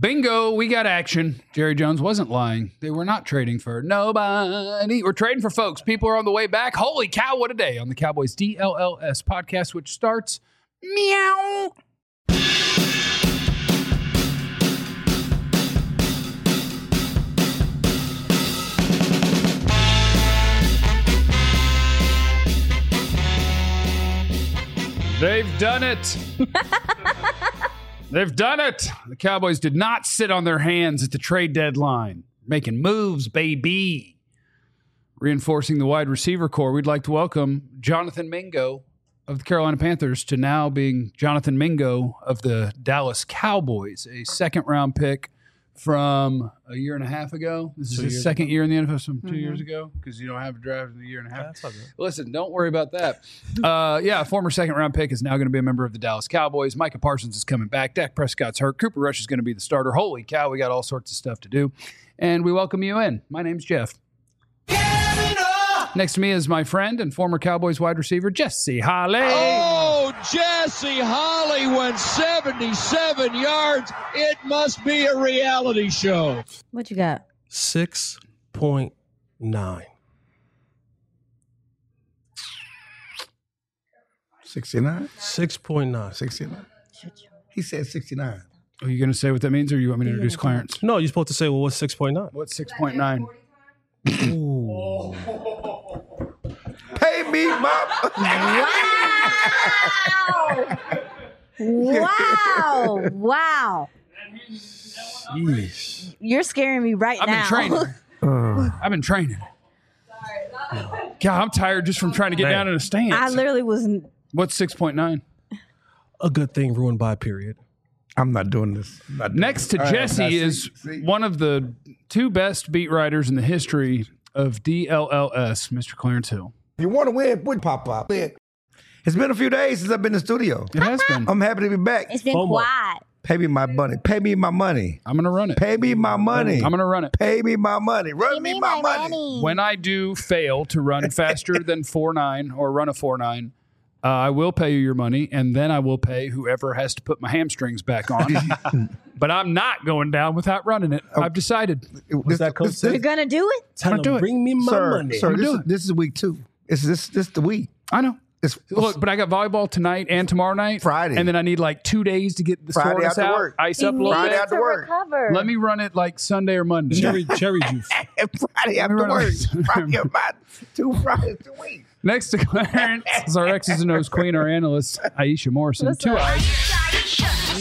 Bingo, we got action. Jerry Jones wasn't lying. They were not trading for nobody. We're trading for folks. People are on the way back. Holy cow, what a day on the Cowboys DLLS podcast, which starts meow. They've done it. They've done it. The Cowboys did not sit on their hands at the trade deadline. Making moves, baby. Reinforcing the wide receiver core, we'd like to welcome Jonathan Mingo of the Carolina Panthers to now being Jonathan Mingo of the Dallas Cowboys, a second-round pick from a year and a half ago. This is his second year in the NFL, from 2 years ago, because you don't have a draft in a year and a half. That's all good. Listen, don't worry about that. A former second-round pick is now going to be a member of the Dallas Cowboys. Micah Parsons is coming back. Dak Prescott's hurt. Cooper Rush is going to be the starter. Holy cow, we got all sorts of stuff to do. And we welcome you in. My name's Jeff. Next to me is my friend and former Cowboys wide receiver, Jesse Holley. Oh, Jesse Holley went 77 yards. It must be a reality show. What you got? 6.9. 69? 6.9. 69. He said 69. Are you going to say what that means, or you want me to introduce Clarence? No, you're supposed to say, well, what's 6.9? What's 6.9? Pay me my... Wow. Wow. Yeesh. You're scaring me right I've now. been training. I've been training. God, I'm tired just from trying to get down in a stance. I literally wasn't. What's 6.9? A good thing ruined by a period. I'm not doing this. Next to Jesse is one of the two best beat writers in the history of DLLS, Mr. Clarence Hill. If you want to win, put pop. It's been a few days since I've been in the studio. It has been. I'm happy to be back. It's been FOMO. quiet. Pay me my money. Pay me my money. I'm going to run it. Pay me my money. I'm going to run it. Pay me my money. Run me my money. When I do fail to run faster than 4.9 or run a 4.9, I will pay you your money, and then I will pay whoever has to put my hamstrings back on. But I'm not going down without running it. I've decided. What's that coach You're say? going to do it? Tell do him, it. bring me my money. Sir, do it. this is week 2. This the week. I know. It's Look, but I got volleyball tonight and tomorrow night. Friday. And then I need like 2 days to get the Friday soreness after out. work. Ice You up a need little Friday bit. after to work. recover. Let me run it like Sunday or Monday. Cherry juice. Friday after run work. it. Friday about 2 Fridays a week. Next to Clarence is our X's and O's queen, our analyst, Aisha Morrison. What's 2 up? eyes.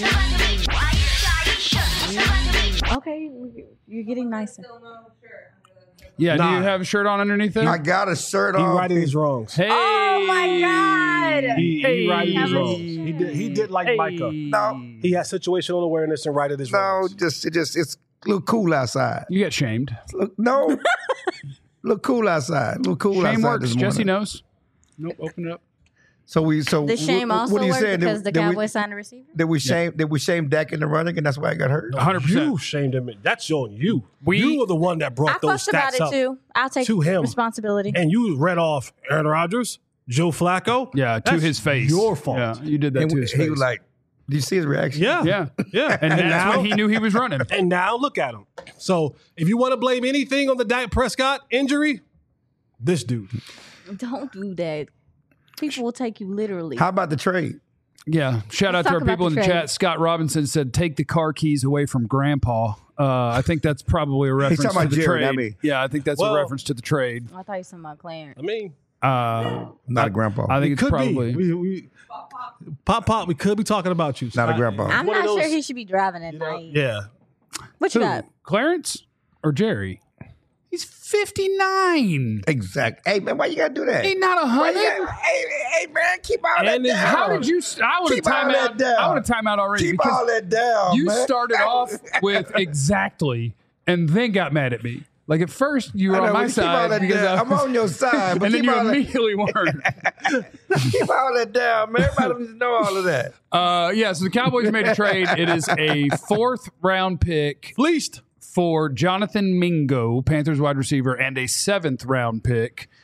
Okay, you're getting nicer. Yeah, do Nah. you have a shirt on underneath there? I got a shirt He on. righted his wrongs. Hey. Oh, my God. He righted his Hey. wrongs. He did like Hey. Micah. No, He had situational awareness and righted his no, wrongs. it's a little cool outside. You get shamed. Look cool outside. Look cool Shame outside works. this morning. Jesse knows. Nope, open it up. So The shame what also are you worked saying? because the Cowboys signed a receiver? Did we shame Dak in the running, and that's why I got hurt? 100%. You shamed him. That's on you. You were the one that I brought those fussed about stats it, up too. I'll take to him. responsibility. And you read off Aaron Rodgers, Joe Flacco. Yeah, to That's his face. Your fault. Yeah, you did that And to his face. he was like, "Did you see his reaction?" Yeah. yeah. Yeah. And that's now, when he knew he was running. and now look at him. So if you want to blame anything on the Dak Prescott injury, this dude. Don't do that. People will take you literally. How about the trade? Yeah. Shout out Let's to our talk about people in the the trade. chat. Scott Robinson said, take the car keys away from Grandpa. I think that's probably a reference talking to about the Jerry, trade. not me. Yeah, I think that's Well- a reference to the trade. I thought you were talking about Clarence. I mean, Not a grandpa. I think it it's could probably. be. We Pop, we could be talking about you. Not a grandpa. I'm One of not sure those- he should be driving at night. Yeah. What you Who? got? Clarence or Jerry? He's 59. Exactly. Hey man, why you gotta do that? Ain't not Why you 100. gotta- hey man, keep all that And his- down. How did you? I would have Keep all time that out. down. I would have time out already Keep because all that down, you man. started off with exactly, and then got mad at me. Like at first you were I know, on my but keep all side that because down. I I'm was- on your side, but and then keep you all that, immediately weren't. keep all that down, man. Everybody needs to know all of that. Yeah, so the Cowboys made a trade. It is a 4th round pick Fleeced. for Jonathan Mingo, Panthers wide receiver, and a 7th round pick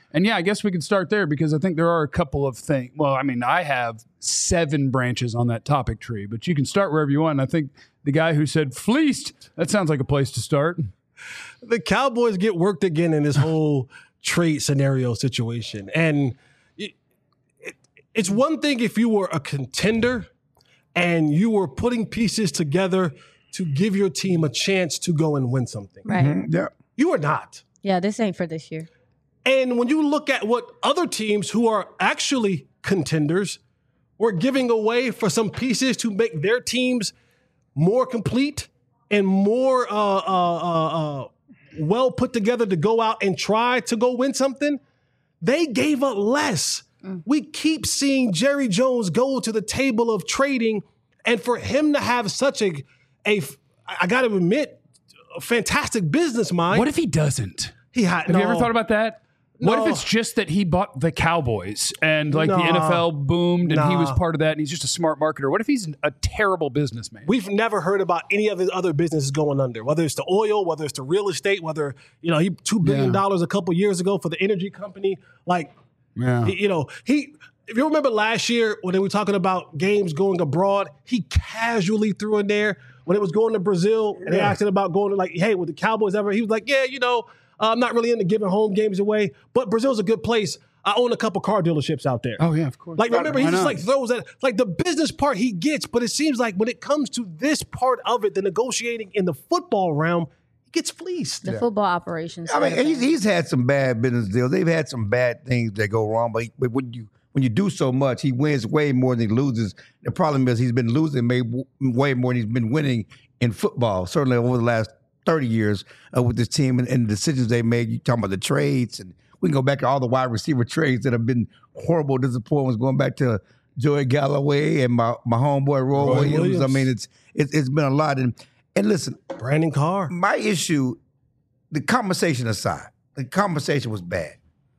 And yeah, I guess we could start there because I think there are a couple of things. Well, I mean, I have 7 branches on that topic tree, but you can start wherever you want. And I think the guy who said fleeced, that sounds like a place to start. The Cowboys get worked again in this whole trade scenario situation. And it's one thing if you were a contender and you were putting pieces together to give your team a chance to go and win something. Right. Yeah. You are not. Yeah, this ain't for this year. And when you look at what other teams who are actually contenders were giving away for some pieces to make their teams more complete and more well put together to go out and try to go win something, they gave up less. We keep seeing Jerry Jones go to the table of trading, and for him to have such a I got to admit, a fantastic business mind. What if he doesn't? Have you ever thought about that? What No. if it's just that he bought the Cowboys and like No. the NFL boomed and he was No. part of that and he's just a smart marketer? What if he's a terrible businessman? We've never heard about any of his other businesses going under, whether it's the oil, whether it's the real estate, whether, he $2 billion a couple years ago for the energy company. Like, Yeah. if you remember last year when they were talking about games going abroad, he casually threw in there when it was going to Brazil and they asked him about going to like, hey, would the Cowboys ever? He was like, yeah, I'm not really into giving home games away, but Brazil's a good place. I own a couple car dealerships out there. Oh, yeah, of course. Like, remember, he Why just not? like throws that, like the business part he gets, but it seems like when it comes to this part of it, the negotiating in the football realm, he gets fleeced. The football operations. I mean, he's had some bad business deals. They've had some bad things that go wrong, but when you do so much, he wins way more than he loses. The problem is he's been losing way more than he's been winning in football, certainly over the last 30 years with this team and the decisions they made. You talking about the trades, and we can go back to all the wide receiver trades that have been horrible disappointments, going back to Joey Galloway and my homeboy Roy Williams. I mean, it's been a lot. And listen, Brandon Carr. my issue, the conversation aside, the conversation was bad.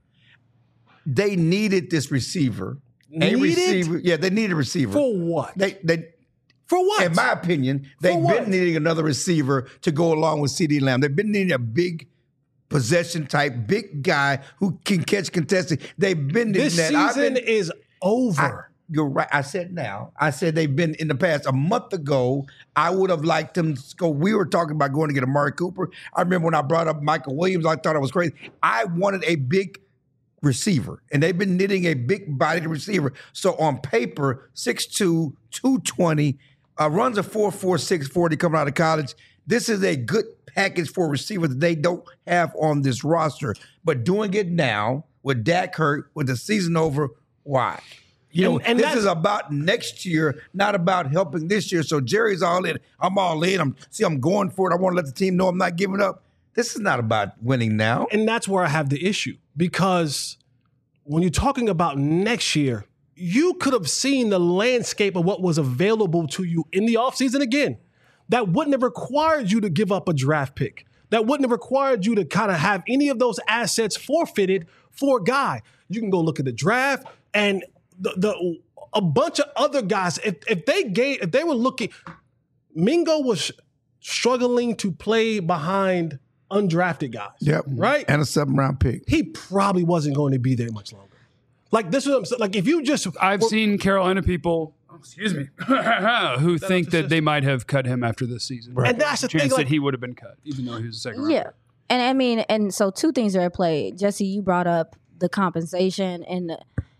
They needed this receiver. Needed? A receiver. Yeah, they needed a receiver. For what? For what? In my opinion, they've what? been needing another receiver to go along with CeeDee Lamb. They've been needing a big possession type, big guy who can catch contested. They've been needing This that. season is over. You're right. I said they've been in the past. A month ago, I would have liked them to go. We were talking about going to get Amari Cooper. I remember when I brought up Michael Williams, I thought I was crazy. I wanted a big receiver, and they've been needing a big-bodied receiver. So on paper, 6'2", 220, runs a 4.46 40 coming out of college. This is a good package for a receiver that they don't have on this roster. But doing it now with Dak hurt, with the season over, why? And This is about next year, not about helping this year. So Jerry's all in. I'm all in. I'm going for it. I want to let the team know I'm not giving up. This is not about winning now. And that's where I have the issue, because when you're talking about next year, you could have seen the landscape of what was available to you in the offseason again. That wouldn't have required you to give up a draft pick. That wouldn't have required you to kind of have any of those assets forfeited for a guy. You can go look at the draft and a bunch of other guys. If they were looking, Mingo was struggling to play behind undrafted guys. Yep. Right? And a 7th-round pick. He probably wasn't going to be there much longer. Like, this is what I'm saying. Like, if you just... I've seen Carolina people, who think that they might have cut him after this season. And that's the Chance thing, that like- he would have been cut, even though he was a second round. Yeah. And I mean, and so 2 things are at play. Jesse, you brought up the compensation, and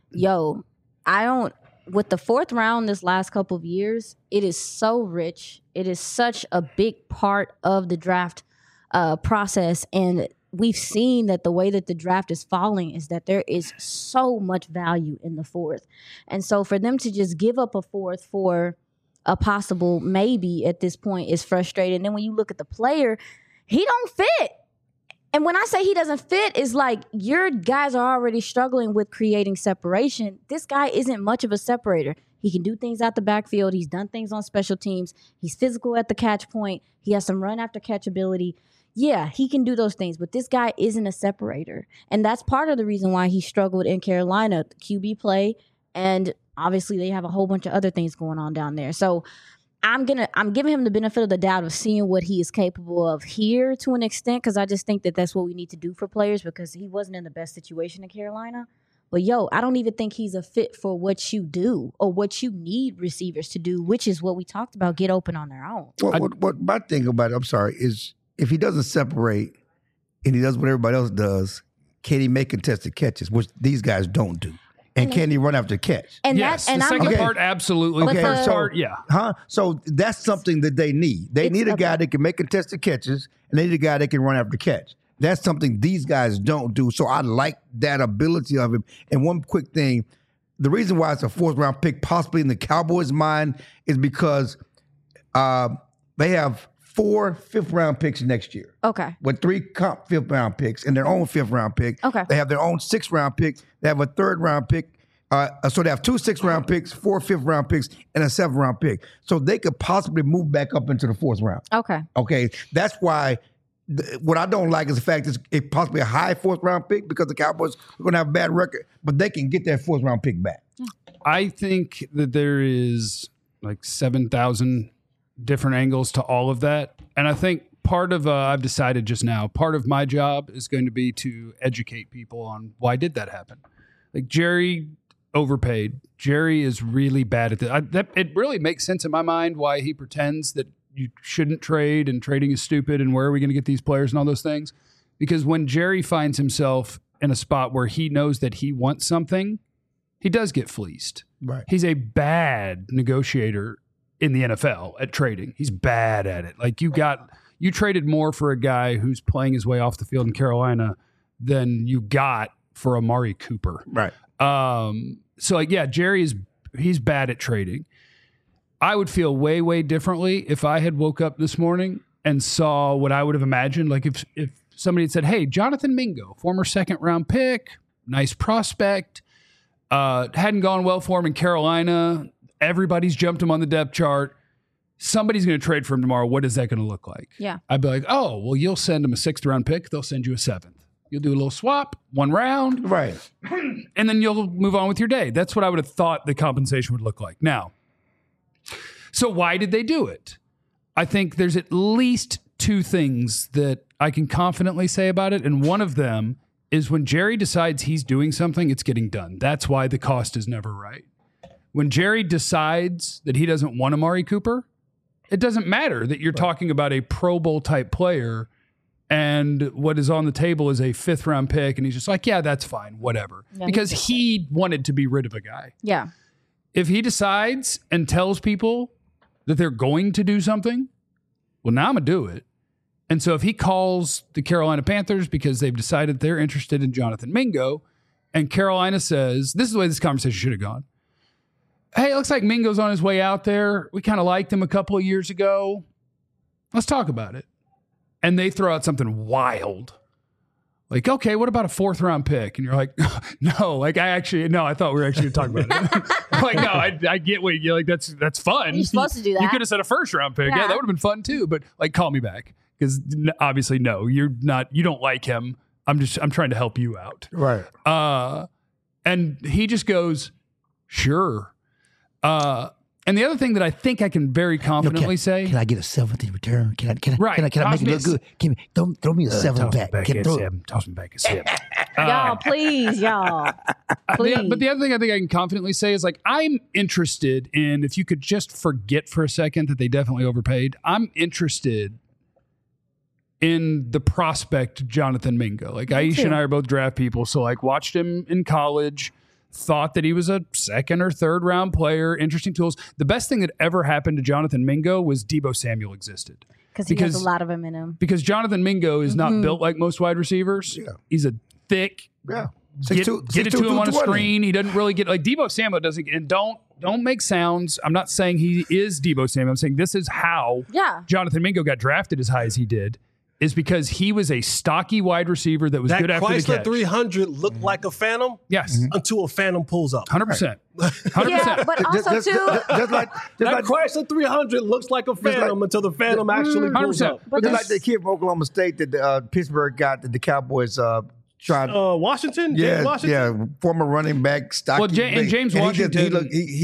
with the 4th round this last couple of years, it is so rich. It is such a big part of the draft process. And we've seen that the way that the draft is falling is that there is so much value in the 4th. And so for them to just give up a 4th for a possible maybe at this point is frustrating. And then when you look at the player, he don't fit. And when I say he doesn't fit, is like your guys are already struggling with creating separation. This guy isn't much of a separator. He can do things out the backfield. He's done things on special teams. He's physical at the catch point. He has some run after catch ability. Yeah, he can do those things, but this guy isn't a separator. And that's part of the reason why he struggled in Carolina, QB play, and obviously they have a whole bunch of other things going on down there. So I'm giving him the benefit of the doubt of seeing what he is capable of here to an extent, because I just think that that's what we need to do for players, because he wasn't in the best situation in Carolina. But I don't even think he's a fit for what you do or what you need receivers to do, which is what we talked about, get open on their own. What my thing about it, I'm sorry, is if he doesn't separate and he does what everybody else does, can he make contested catches, which these guys don't do? And can he run after catch? And yes, that, and the second I'm part, absolutely. But The first the- part, yeah. Huh? So that's something that they need. They need a guy that can make contested catches, and they need a guy that can run after catch. That's something these guys don't do. So I like that ability of him. And one quick thing, the reason why it's a 4th round pick, possibly in the Cowboys' mind, is because they have 4 5th round picks next year. Okay. With 3 comp 5th round picks and their own 5th round pick. Okay. They have their own 6th round pick. They have a 3rd round pick. So they have 2 6th round picks, 4 5th round picks, and a 7th round pick. So they could possibly move back up into the 4th round. Okay. Okay. That's why what I don't like is the fact that it's possibly a high 4th round pick because the Cowboys are going to have a bad record, but they can get that 4th round pick back. I think that there is like 7,000 different angles to all of that. And I think part of, I've decided just now, part of my job is going to be to educate people on why did that happen. Like Jerry overpaid. Jerry is really bad at that. It really makes sense in my mind why he pretends that you shouldn't trade and trading is stupid and where are we going to get these players and all those things. Because when Jerry finds himself in a spot where he knows that he wants something, he does get fleeced. Right. He's a bad negotiator in the NFL at trading. He's bad at it. Like you traded more for a guy who's playing his way off the field in Carolina than you got for Amari Cooper. Right. So like, yeah, he's bad at trading. I would feel way, way differently if I had woke up this morning and saw what I would have imagined. Like if somebody had said, hey, Jonathan Mingo, former 2nd round pick, nice prospect, hadn't gone well for him in Carolina. Everybody's jumped him on the depth chart. Somebody's going to trade for him tomorrow. What is that going to look like? Yeah. I'd be like, oh, well, you'll send him a 6th round pick. They'll send you a 7th. You'll do a little swap, 1 round. Right. And then you'll move on with your day. That's what I would have thought the compensation would look like. Now, so why did they do it? I think there's at least 2 things that I can confidently say about it. And one of them is when Jerry decides he's doing something, it's getting done. That's why the cost is never right. When Jerry decides that he doesn't want Amari Cooper, it doesn't matter that you're talking about a Pro Bowl type player and what is on the table is a 5th round pick. And he's just like, yeah, that's fine, whatever. Yeah, because he wanted to be rid of a guy. Yeah. If he decides and tells people that they're going to do something, well, now I'm going to do it. And so if he calls the Carolina Panthers because they've decided they're interested in Jonathan Mingo, and Carolina says, this is the way this conversation should have gone. Hey, it looks like Mingo's on his way out there. We kind of liked him a couple of years ago. Let's talk about it. And they throw out something wild. Like, okay, what about a 4th round pick? And you're like, no, like I thought we were actually talking about it. Like, no, I get what you like. That's fun. You're supposed to do that. You could have said a 1st round pick. Yeah, that would have been fun too. But like, call me back because obviously, no, you're not. You don't like him. I'm trying to help you out. Right. And he just goes, sure. And the other thing that I think I can very confidently say, can I get a 7th in return? Can I Right. make it look good? Throw me a 7 back. Toss me back a 7. Y'all, please, y'all. Please. But the other thing I think I can confidently say is like, I'm interested in, if you could just forget for a second that they definitely overpaid, I'm interested in the prospect Jonathan Mingo. Like Aisha and I are both draft people. So like watched him in college, thought that he was a 2nd or 3rd round player, interesting tools. The best thing that ever happened to Jonathan Mingo was Deebo Samuel existed. Because he has a lot of them in him. Because Jonathan Mingo is not built like most wide receivers. Yeah. He's a thick, Yeah. get it to him on a screen. He doesn't really get, like Deebo Samuel doesn't, and don't make sounds. I'm not saying he is Deebo Samuel. I'm saying this is how Jonathan Mingo got drafted as high as he did. Is because he was a stocky wide receiver that was good after the catch. That Chrysler 300 looked like a Phantom. Yes. Until a Phantom pulls up. 100%. 100%. Yeah, but also too. That Chrysler 300 looks like a Phantom until the Phantom actually pulls up. But just like the kid from Oklahoma State that Pittsburgh got that the Cowboys tried. Washington? James Washington? Yeah, former running back, stocky. Well, James Washington. He was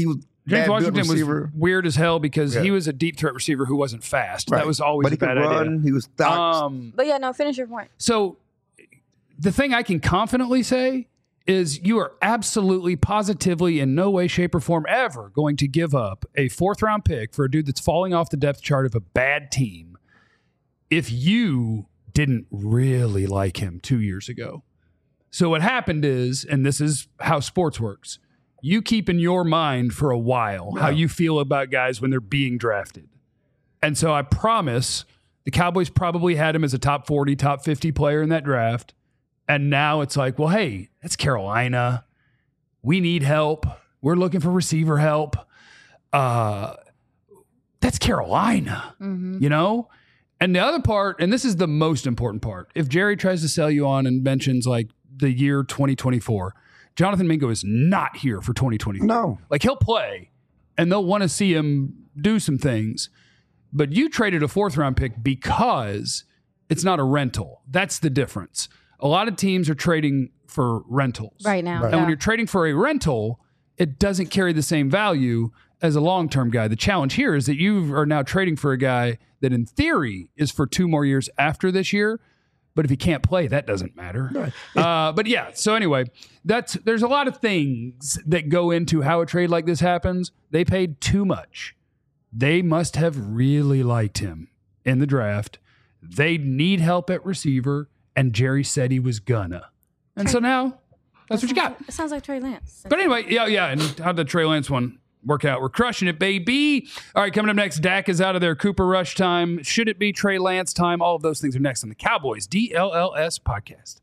James bad Washington built receiver. was weird as hell because Yeah. he was a deep threat receiver who wasn't fast. Right. That was always but a he could bad run. idea. He was stocked. But yeah, no, finish your point. So the thing I can confidently say is you are absolutely, positively, in no way, shape, or form ever going to give up a 4th-round pick for a dude that's falling off the depth chart of a bad team if you didn't really like him 2 years ago. So what happened is, and this is how sports works, you keep in your mind for a while how you feel about guys when they're being drafted. And so I promise the Cowboys probably had him as a top 40, top 50 player in that draft. And now it's like, well, hey, that's Carolina. We need help. We're looking for receiver help. That's Carolina, you know? And the other part, and this is the most important part, if Jerry tries to sell you on and mentions like the year 2024, Jonathan Mingo is not here for 2024. No. Like he'll play and they'll want to see him do some things. But you traded a 4th-round pick because it's not a rental. That's the difference. A lot of teams are trading for rentals Right now. And when you're trading for a rental, it doesn't carry the same value as a long-term guy. The challenge here is that you are now trading for a guy that in theory is for 2 more years after this year. But if he can't play, that doesn't matter. But yeah, so anyway, there's a lot of things that go into how a trade like this happens. They paid too much. They must have really liked him in the draft. They need help at receiver, and Jerry said he was gonna. And so now, that's what you got. It sounds like Trey Lance. But anyway, yeah. And how'd the Trey Lance one work out? We're crushing it, baby. All right, coming up next, Dak is out of there. Cooper Rush time. Should it be Trey Lance time? All of those things are next on the Cowboys DLLS podcast.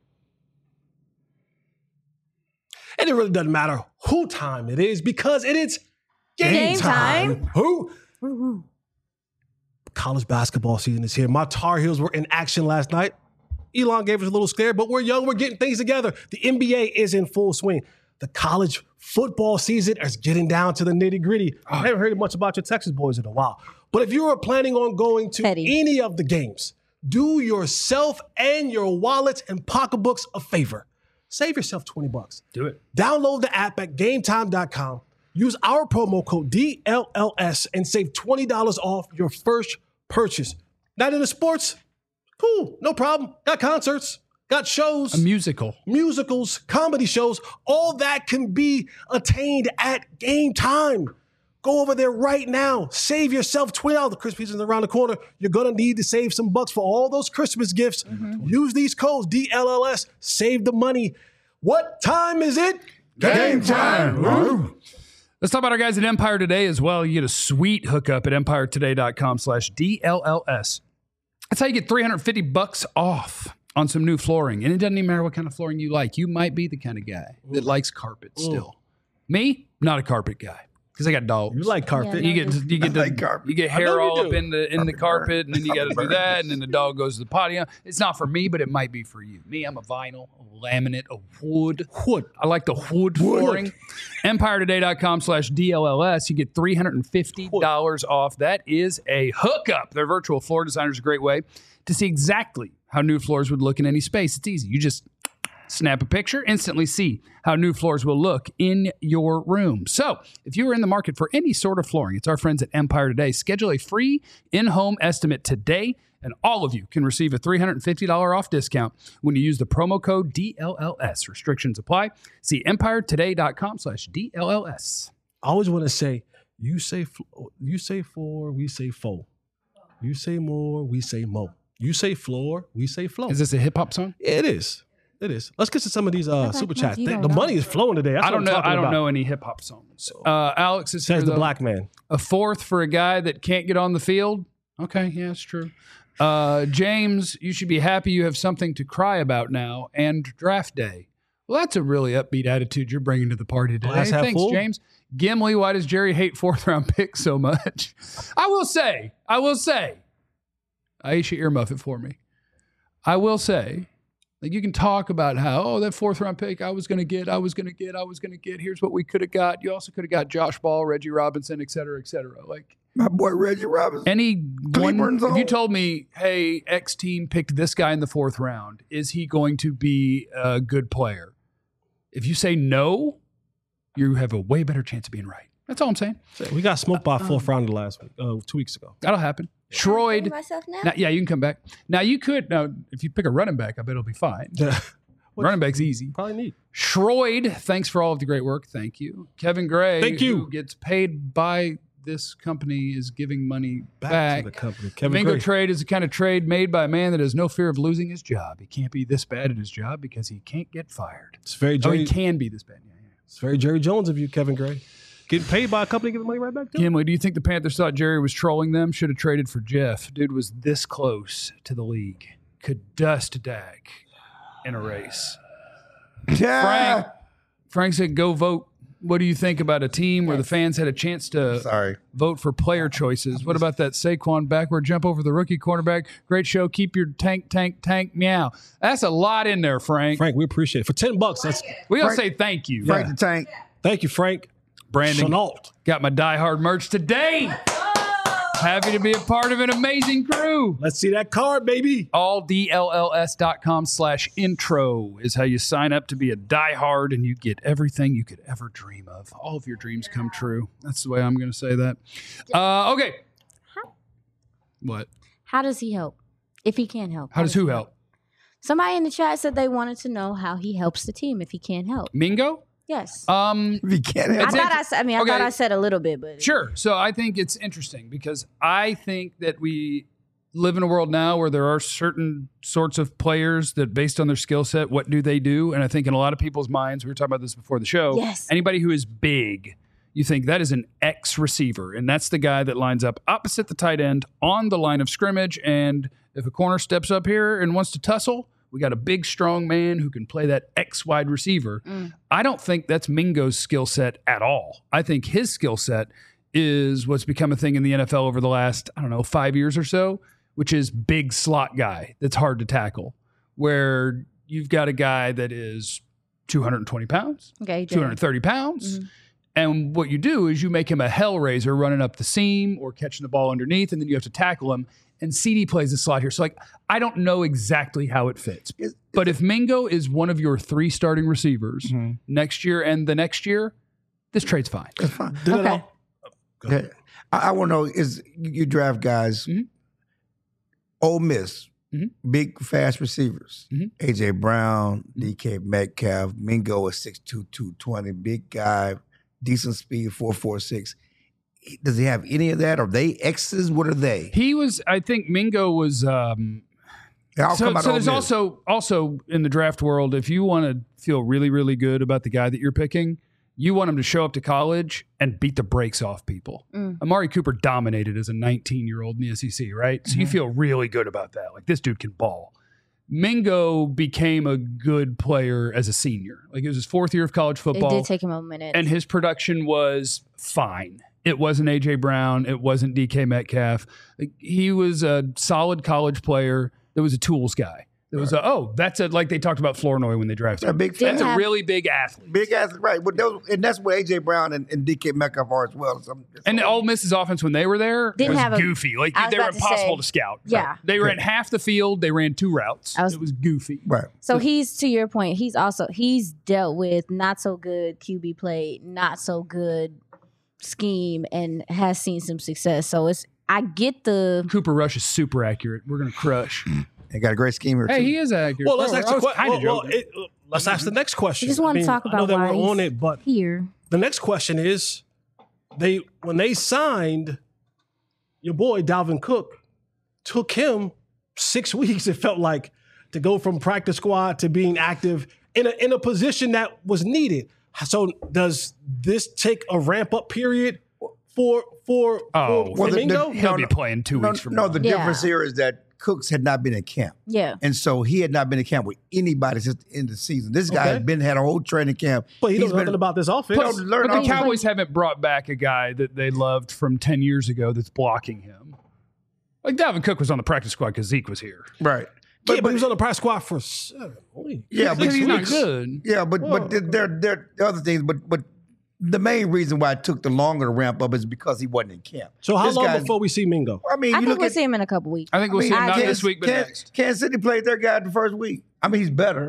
And it really doesn't matter who time it is because it is game time. Who? College basketball season is here. My Tar Heels were in action last night. Elon gave us a little scare, but we're young. We're getting things together. The NBA is in full swing. The college football season is getting down to the nitty gritty. I haven't heard much about your Texas boys in a while. But if you are planning on going to any of the games, do yourself and your wallets and pocketbooks a favor. Save yourself $20. Do it. Download the app at gametime.com. Use our promo code DLLS and save $20 off your first purchase. Not into sports? Cool, no problem. Got concerts, got shows. A musical. Musicals, comedy shows. All that can be attained at Game Time. Go over there right now. Save yourself $20. The Christmas season is around the corner. You're going to need to save some bucks for all those Christmas gifts. Use these codes, DLLS. Save the money. What time is it? Game time. Let's talk about our guys at Empire Today as well. You get a sweet hookup at empiretoday.com/DLLS. That's how you get $350 off on some new flooring. And it doesn't even matter what kind of flooring you like. You might be the kind of guy that likes carpet still. Me, not a carpet guy. Because I got dogs. You like carpet. You get carpet. you get hair all up in the carpet, and then you got to do that, and then the dog goes to the potty. It's not for me, but it might be for you. Me, I'm a vinyl, a laminate, a wood. I like the wood flooring. EmpireToday.com/DLLS. You get $350 off. That is a hookup. Their virtual floor designer is a great way to see exactly how new floors would look in any space. It's easy. You just snap a picture, instantly see how new floors will look in your room. So if you are in the market for any sort of flooring, it's our friends at Empire Today. Schedule a free in-home estimate today, and all of you can receive a $350 off discount when you use the promo code DLLS. Restrictions apply. See EmpireToday.com/DLLS. I always want to say, you say four, we say fo. You say more, we say mo. You say floor, we say flow. Is this a hip-hop song? It is. It is. Let's get to some of these super chats. you don't The know. money is flowing today. That's I don't what know. I'm talking I don't about. know any hip-hop songs. Alex is Says here, the though. black man. A 4th for a guy that can't get on the field. Okay, yeah, it's true. James, you should be happy you have something to cry about now and draft day. Well, that's a really upbeat attitude you're bringing to the party today. Glass half Thanks, full? James. Gimli, why does Jerry hate 4th-round picks so much? I will say, Aisha, earmuff it for me. I will say, like, you can talk about how, that 4th-round pick I was going to get. Here's what we could have got. You also could have got Josh Ball, Reggie Robinson, et cetera, et cetera. Like, My boy Reggie Robinson. if you told me, hey, X team picked this guy in the 4th round, is he going to be a good player? If you say no, you have a way better chance of being right. That's all I'm saying. We got smoked by a fourth rounder last week, 2 weeks ago. That'll happen. Schroed. Myself now? Now, yeah, you can come back. Now, if you pick a running back, I bet it'll be fine. Running back's easy. Probably need. Schroed, thanks for all of the great work. Thank you. Kevin Gray, Thank you. who gets paid by this company, is giving money Back to the company. Kevin Mingo Gray. trade is the kind of trade made by a man that has no fear of losing his job. He can't be this bad at his job because he can't get fired. It's very Oh, Jerry. he can be this bad. Yeah. It's very Jerry Jones of you, Kevin Gray. Getting paid by a company, giving money right back to him. Kimley, do you think the Panthers thought Jerry was trolling them? Should have traded for Jeff. Dude was this close to the league. Could dust Dak in a race. Frank said, go vote. What do you think about a team where the fans had a chance to vote for player choices? What about that Saquon backward jump over the rookie cornerback? Great show. Keep your tank, meow. That's a lot in there, Frank. Frank, we appreciate it. For $10, that's We gotta say thank you. Frank the Tank. thank you, Frank. Brandon Chenault. got my Die Hard merch today. Happy to be a part of an amazing crew. Let's see that card, baby. alldlls.com/intro is how you sign up to be a diehard, and you get everything you could ever dream of. All of your dreams come true. That's the way I'm going to say that. Okay. What? How does he help? If he can't help. How does who help? Somebody in the chat said they wanted to know how he helps the team if he can't help. Mingo? Yes. If you can't have I thought I said a little bit, but Sure. So I think it's interesting because I think that we live in a world now where there are certain sorts of players that based on their skill set, what do they do? And I think in a lot of people's minds, we were talking about this before the show, Yes. anybody who is big, you think that is an X receiver. And that's the guy that lines up opposite the tight end on the line of scrimmage. And if a corner steps up here and wants to tussle, we got a big, strong man who can play that X wide receiver. I don't think that's Mingo's skill set at all. I think his skill set is what's become a thing in the NFL over the last, 5 years or so, which is big slot guy that's hard to tackle, where you've got a guy that is 220 pounds, okay, 230 pounds. And what you do is you make him a hellraiser running up the seam or catching the ball underneath, and then you have to tackle him. And CD plays the slot here. So, I don't know exactly how it fits. But if Mingo is one of your 3 starting receivers next year and the next year, this trade's fine. It's fine. Okay. Okay. I want to know is you draft guys, Ole Miss, big fast receivers, A.J. Brown, DK Metcalf, Mingo is 6'2", 220, big guy, decent speed, 4.46. Does he have any of that? Are they X's? What are they? I think Mingo was. So there's also in the draft world, if you want to feel really, really good about the guy that you're picking, you want him to show up to college and beat the brakes off people. Amari Cooper dominated as a 19-year-old in the SEC, right? So you feel really good about that. Like, this dude can ball. Mingo became a good player as a senior. Like, it was his 4th year of college football. It did take him a minute. And his production was fine. It wasn't A.J. Brown. It wasn't DK Metcalf. Like, he was a solid college player. That was a tools guy. It was like they talked about Flournoy when they drafted him. That's a really big athlete. Big athlete, right. But and that's what A.J. Brown and DK Metcalf are as well. And Ole Miss's offense when they were there was goofy. Like, they were impossible to scout. Yeah. They ran half the field. They ran 2 routes. It was goofy. Right. So he's, to your point, he's dealt with not so good QB play, not so good scheme, and has seen some success. So I get the Cooper Rush is super accurate. We're gonna crush. They got a great scheme here. Hey, too. he is accurate. Well, let's ask the question. let's ask the next question. I just want to talk I know about that why we're on he's it, but here. the next question is, when they signed your boy Dalvin Cook, took him 6 weeks. It felt like to go from practice squad to being active in a position that was needed. So does this take a ramp up period for Mingo? He'll be playing 2 weeks from now. No, the difference here is that Cooks had not been in camp. Yeah. And so he had not been in camp with anybody since the end of the season. This guy had a whole training camp. But he knows nothing about this offense. But the Cowboys haven't brought back a guy that they loved from 10 years ago that's blocking him. Like, Dalvin Cook was on the practice squad because Zeke was here. Right. But he was on the practice squad for 7 weeks. Yeah, but he's not good. Yeah, but there are other things. But the main reason why it took the longer to ramp up is because he wasn't in camp. So how long before we see Mingo? I mean, I think we'll see him in a couple weeks. I think we'll see him not this week, but next. Kansas City played their guy the first week. I mean, he's better.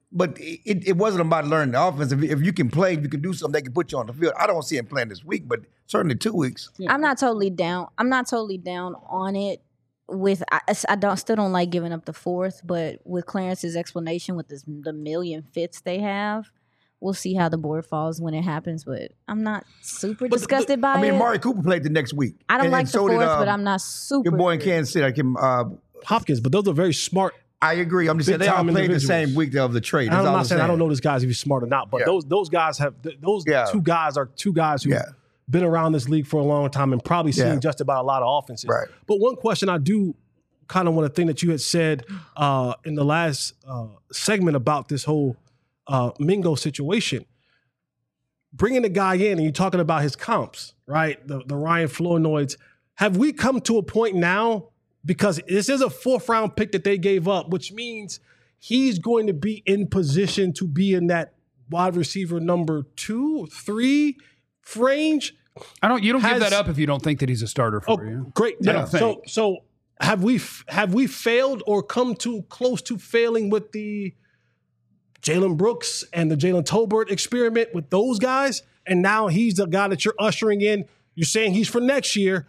But it wasn't about learning the offense. If you can play, you can do something, they can put you on the field. I don't see him playing this week, but certainly 2 weeks. I'm not totally down. I'm not totally down on it. Still don't like giving up the fourth, but with Clarence's explanation with the million fits they have, we'll see how the board falls when it happens. But I'm not super disgusted by it. I mean, Amari Cooper played the next week. I don't like and the so fourth, did, but I'm not super. your boy in Kansas City, Hopkins, but those are very smart. I agree. I'm just saying they all played the same week of the trade. I'm not saying I don't know this guy's if he's smart or not, but those guys have two guys are two guys who been around this league for a long time and probably seen just about a lot of offenses. Right. But one question I do kind of want to think that you had said in the last segment about this whole Mingo situation, bringing the guy in and you're talking about his comps, right? The Ryan Flournoy's. Have we come to a point now? Because this is a 4th round pick that they gave up, which means he's going to be in position to be in that wide receiver number 2, 3 range. You don't give that up if you don't think that he's a starter for you. Great. I don't think. So have we failed or come too close to failing with the Jalen Brooks and the Jalen Tolbert experiment with those guys? And now he's the guy that you're ushering in. You're saying he's for next year.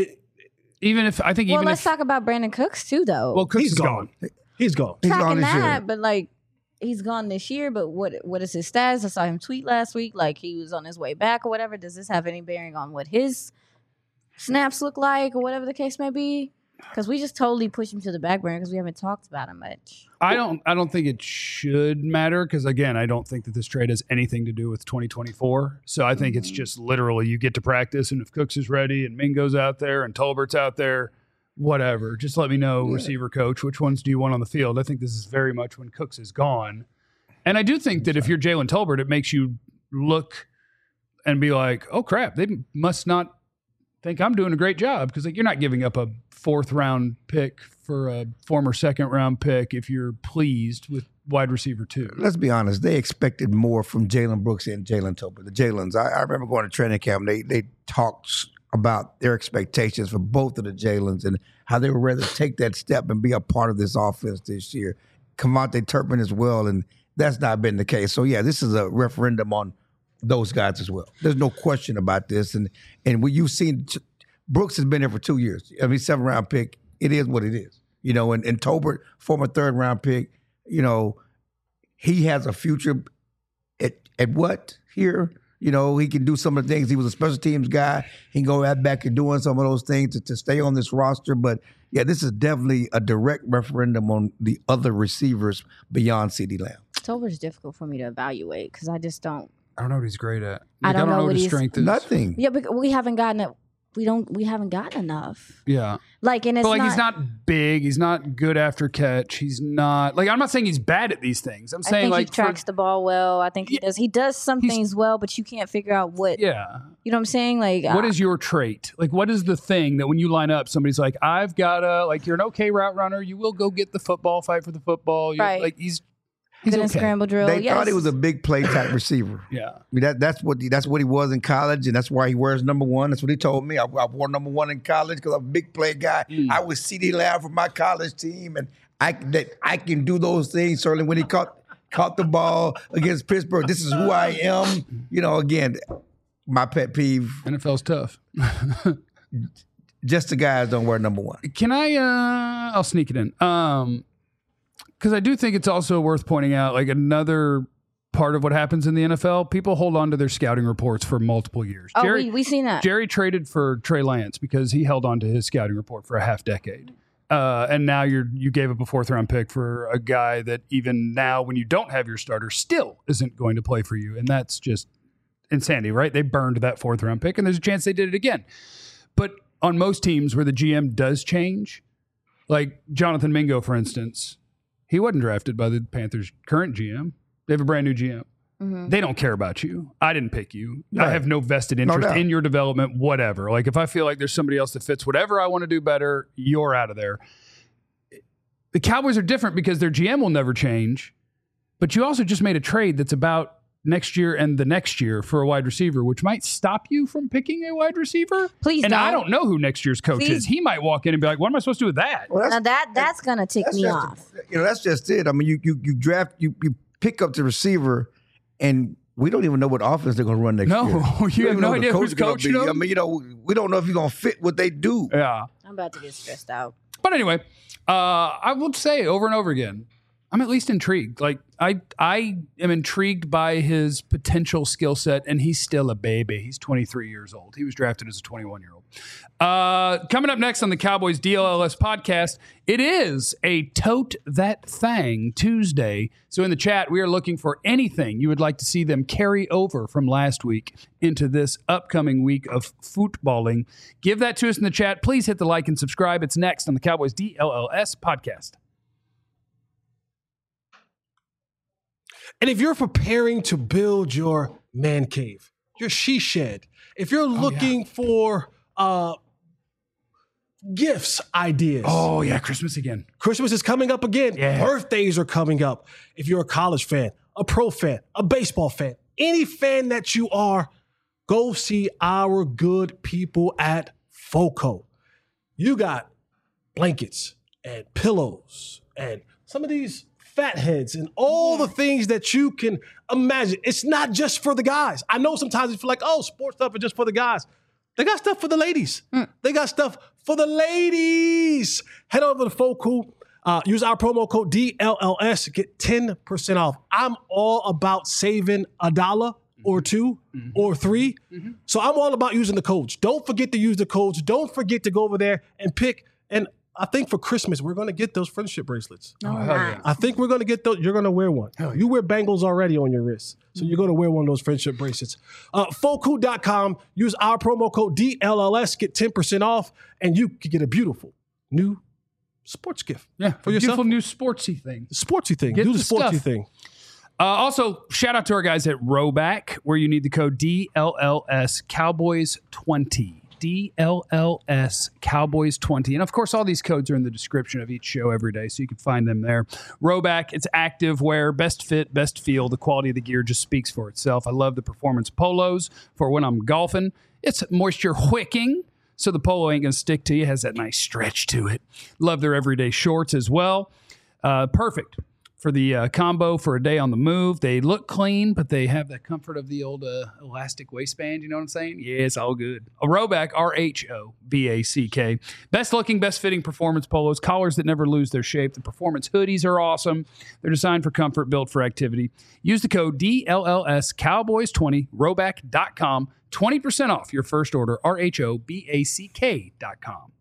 Let's talk about Brandon Cooks too, though. Well, Cooks is gone. He's gone. He's gone this year. But he's gone this year. But what is his status? I saw him tweet last week, like he was on his way back or whatever. Does this have any bearing on what his snaps look like or whatever the case may be? Because we just totally pushed him to the back burner because we haven't talked about him much. I don't think it should matter because, again, I don't think that this trade has anything to do with 2024. So I think it's just literally you get to practice, and if Cooks is ready and Mingo's out there and Tolbert's out there, whatever. Just let me know, receiver coach, which ones do you want on the field? I think this is very much when Cooks is gone. And I do think that if you're Jalen Tolbert, it makes you look and be like, oh, crap, they must not think I'm doing a great job because you're not giving up a 4th round pick for a former 2nd round pick if you're pleased with wide receiver 2. Let's be honest. They expected more from Jalen Brooks and Jalen Tolbert. The Jalens. I remember going to training camp. They talked about their expectations for both of the Jalens and how they would rather take that step and be a part of this offense this year. Kevontae Turpin as well, and that's not been the case. So, this is a referendum on those guys as well. There's no question about this. And what you've seen, Brooks has been there for 2 years. I mean, 7th round pick. It is what it is. And Tolbert, former 3rd round pick, he has a future at what here? He can do some of the things. He was a special teams guy. He can go right back and doing some of those things to stay on this roster. But, this is definitely a direct referendum on the other receivers beyond CeeDee Lamb. Tolbert's difficult for me to evaluate because I just don't. I don't know what he's great at. I don't know what his strength is. Nothing. Yeah, but we haven't gotten it. We haven't gotten enough. Yeah. And it's he's not big. He's not good after catch. He's not I'm not saying he's bad at these things. I'm saying I think he tracks the ball well. I think he does. He does some things well, but you can't figure out what. Yeah. You know what I'm saying? What is your trait? What is the thing that when you line up, somebody's like, I've got you're an okay route runner. You will go get the football, fight for the football. Right. He's good okay. in scramble drill. They thought he was a big play type receiver. Yeah. I mean, that's what he was in college, and that's why he wears number 1. That's what he told me. I wore number 1 in college because I'm a big play guy. I was CeeDee Lamb for my college team, and I can do those things. Certainly when he caught the ball against Pittsburgh, this is who I am. Again, my pet peeve. NFL's tough. Just the guys don't wear number 1. Can I? I'll sneak it in. Because I do think it's also worth pointing out, another part of what happens in the NFL, people hold on to their scouting reports for multiple years. Oh, we've seen that. Jerry traded for Trey Lance because he held on to his scouting report for a half decade. And now you gave up a 4th round pick for a guy that even now, when you don't have your starter, still isn't going to play for you. And that's just insanity, right? They burned that 4th round pick, and there's a chance they did it again. But on most teams where the GM does change, like Jonathan Mingo, for instance, he wasn't drafted by the Panthers' current GM. They have a brand new GM. Mm-hmm. They don't care about you. I didn't pick you. Right. I have no vested interest in your development, whatever. If I feel like there's somebody else that fits whatever I want to do better, you're out of there. The Cowboys are different because their GM will never change, but you also just made a trade that's about next year and the next year for a wide receiver, which might stop you from picking a wide receiver. Please and don't. I don't know who next year's coach is. He might walk in and be like, what am I supposed to do with that? Well, now that's going to tick me off. That's just it. I mean, you pick up the receiver, and we don't even know what offense they're going to run next year. No, you have no idea who's gonna coaching be. them. I mean, we don't know if he's going to fit what they do. Yeah. I'm about to get stressed out. But anyway, I would say over and over again, I'm at least intrigued. Like I am intrigued by his potential skill set, and he's still a baby. He's 23 years old. He was drafted as a 21-year-old. Coming up next on the Cowboys DLLS podcast, it is a Tote That Thang Tuesday. So in the chat, we are looking for anything you would like to see them carry over from last week into this upcoming week of footballing. Give that to us in the chat. Please hit the like and subscribe. It's next on the Cowboys DLLS podcast. And if you're preparing to build your man cave, your she shed, if you're looking for gifts ideas. Oh, yeah, Christmas again. Christmas is coming up again. Yeah. Birthdays are coming up. If you're a college fan, a pro fan, a baseball fan, any fan that you are, go see our good people at FOCO. You got blankets and pillows and some of these fat heads and all the things that you can imagine. It's not just for the guys. I know sometimes you feel like, oh, sports stuff is just for the guys. They got stuff for the ladies. They got stuff for the ladies. Head over to FOCO. Use our promo code DLLS to get 10% off. I'm all about saving $1 or $2 or $3. So I'm all about using the codes. Don't forget to use the codes. Don't forget to go over there and pick. And I think for Christmas, we're going to get those friendship bracelets. No, hell yeah. I think we're going to get those. You're going to wear one. You wear bangles already on your wrist. So you're going to wear one of those friendship bracelets. FOCO.com. Use our promo code DLLS. Get 10% off. And you can get a beautiful new sports gift. Yeah, For yourself. beautiful new sportsy thing. Sportsy thing. Get Do the the sportsy stuff. thing. Also, shout out to our guys at Roback, where you need the code DLLS Cowboys 20. DLLS Cowboys 20. And of course, all these codes are in the description of each show every day, so you can find them there. Roback, it's active wear, best fit, best feel. The quality of the gear just speaks for itself. I love the performance polos for when I'm golfing. It's moisture wicking, so the polo ain't going to stick to you. It has that nice stretch to it. Love their everyday shorts as well. Perfect for the combo for a day on the move. They look clean, but they have the comfort of the old elastic waistband. You know what I'm saying? Yeah, it's all good. A Roback, RHOBACK. Best looking, best fitting performance polos, collars that never lose their shape. The performance hoodies are awesome. They're designed for comfort, built for activity. Use the code DLLS Cowboys 20, Roback.com. 20% off your first order, RHOBACK.com.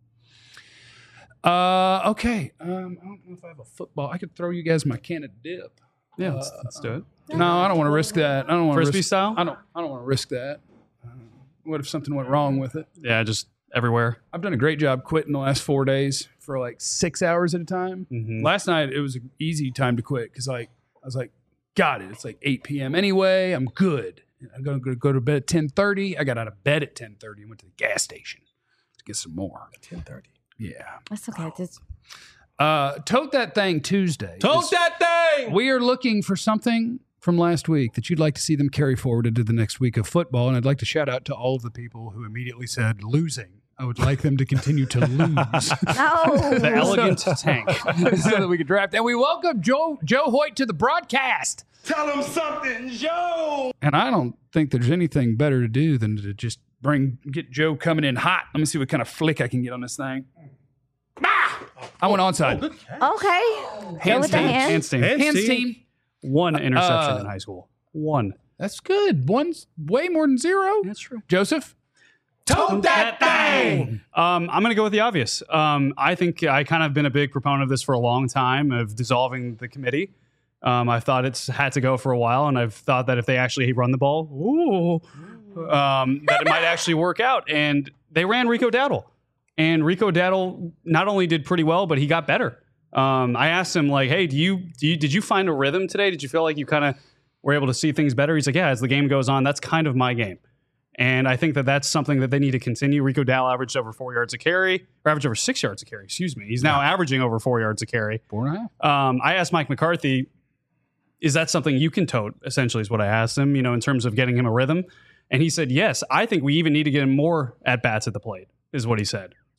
Okay. I don't know if I have a football. I could throw you guys my can of dip. Yeah, let's do it. No, I don't want to risk that. I don't want to Frisbee risk, style? I don't want to risk that. What if something went wrong with it? Yeah, just everywhere. I've done a great job quitting the last 4 days for like 6 hours at a time. Last night it was an easy time to quit because I was like, got it. It's like 8 p.m. anyway. I'm good. I'm going to go to bed at 10:30. I got out of bed at 10:30 and went to the gas station to get some more. 10:30. Yeah. That's okay. Tote That Thing Tuesday. Tote that thing! We are looking for something from last week that you'd like to see them carry forward into the next week of football. And I'd like to shout out to all of the people who immediately said losing. I would like them to continue to lose. No. The elegant tank. so that we could draft. And we welcome Joe Hoyt to the broadcast. Tell him something, Joe. And I don't think there's anything better to do than to just get Joe coming in hot. Let me see what kind of flick I can get on this thing. I went onside. Okay. Go with the team. hand. Hands team. Hands team. One interception in high school. One. That's good. One's way more than zero. That's true. Joseph? Tote that thing! I'm going to go with the obvious. I think I kind of been a big proponent of this for a long time, of dissolving the committee. I thought it's had to go for a while, and I've thought that if they actually run the ball, that it might actually work out. And they ran Rico Dowdle. And Rico Dowdle not only did pretty well, but he got better. I asked him, like, hey, did you find a rhythm today? Did you feel like you kind of were able to see things better? He's like, yeah, as the game goes on, that's kind of my game. And I think that that's something that they need to continue. Rico Dowdle averaged over 4 yards a carry, or averaged over 6 yards a carry, excuse me. He's now averaging over 4 yards a carry. 4.5. I asked Mike McCarthy, is that something you can tote, essentially is what I asked him, in terms of getting him a rhythm. And he said, yes, I think we even need to get him more at-bats at the plate, is what he said.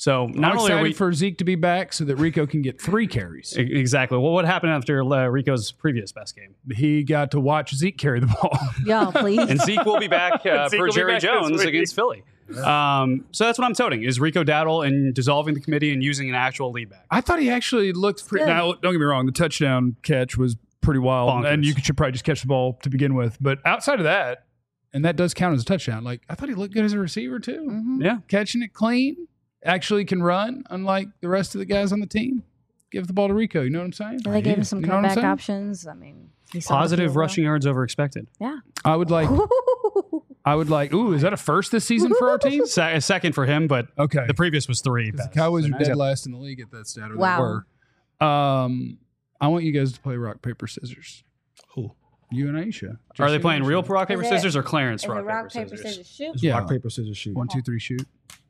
So not I'm only are excited we for Zeke to be back so that Rico can get 3 carries. exactly. Well, what happened after Rico's previous best game? He got to watch Zeke carry the ball. Y'all, please. And Zeke will be back will for be Jerry back this Jones week. against Philly. So that's what I'm toting is Rico Dowdle and dissolving the committee and using an actual lead back. I thought he actually looked pretty. Good. Now, don't get me wrong, the touchdown catch was pretty wild, Bonkers. and you should probably just catch the ball to begin with. But outside of that, and that does count as a touchdown. Like I thought he looked good as a receiver too, Mhm. Yeah. catching it clean. Actually, can run, unlike the rest of the guys on the team. Give the ball to Rico. You know what I'm saying? And they gave him some You know what I'm comeback saying? options. I mean, he saw the Positive field goal. rushing yards over expected. Yeah. I would like. Ooh, is that a first this season for our team? Second for him, but Okay. the previous was 3. The Cowboys So are now he's dead got- last in the league at that stat. Or Wow. They were. I want you guys to play rock, paper, scissors. Who? You and Aisha. Are Just they you playing and real Aisha. rock, paper, Is it- scissors or Clarence Is it rock, paper, scissors? shoot? It's Yeah. rock, paper, scissors, shoot. 1, 2, 3, shoot.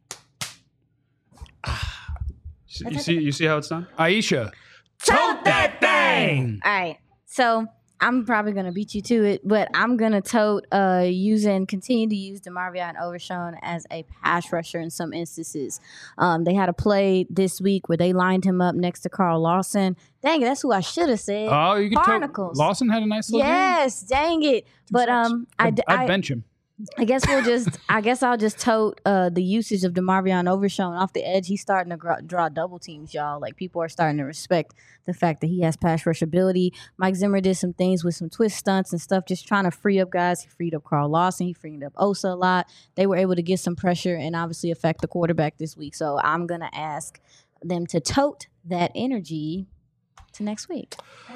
You see how it's done? Aisha. Tote that thing. All right. So I'm probably gonna beat you to it, but I'm gonna continue to use DeMarvion Overshown as a pass rusher in some instances. They had a play this week where they lined him up next to Carl Lawson. Dang it, that's who I should have said. Oh, you could Barnacles. Lawson had a nice little game. Yes, dang it. But I'd bench him. I guess I'll just tote the usage of DeMarvion Overshown off the edge. He's starting to draw double teams, y'all. Like people are starting to respect the fact that he has pass rush ability. Mike Zimmer did some things with some twist stunts and stuff, just trying to free up guys. He freed up Carl Lawson. He freed up Osa a lot. They were able to get some pressure and obviously affect the quarterback this week. So I'm gonna ask them to tote that energy to next week.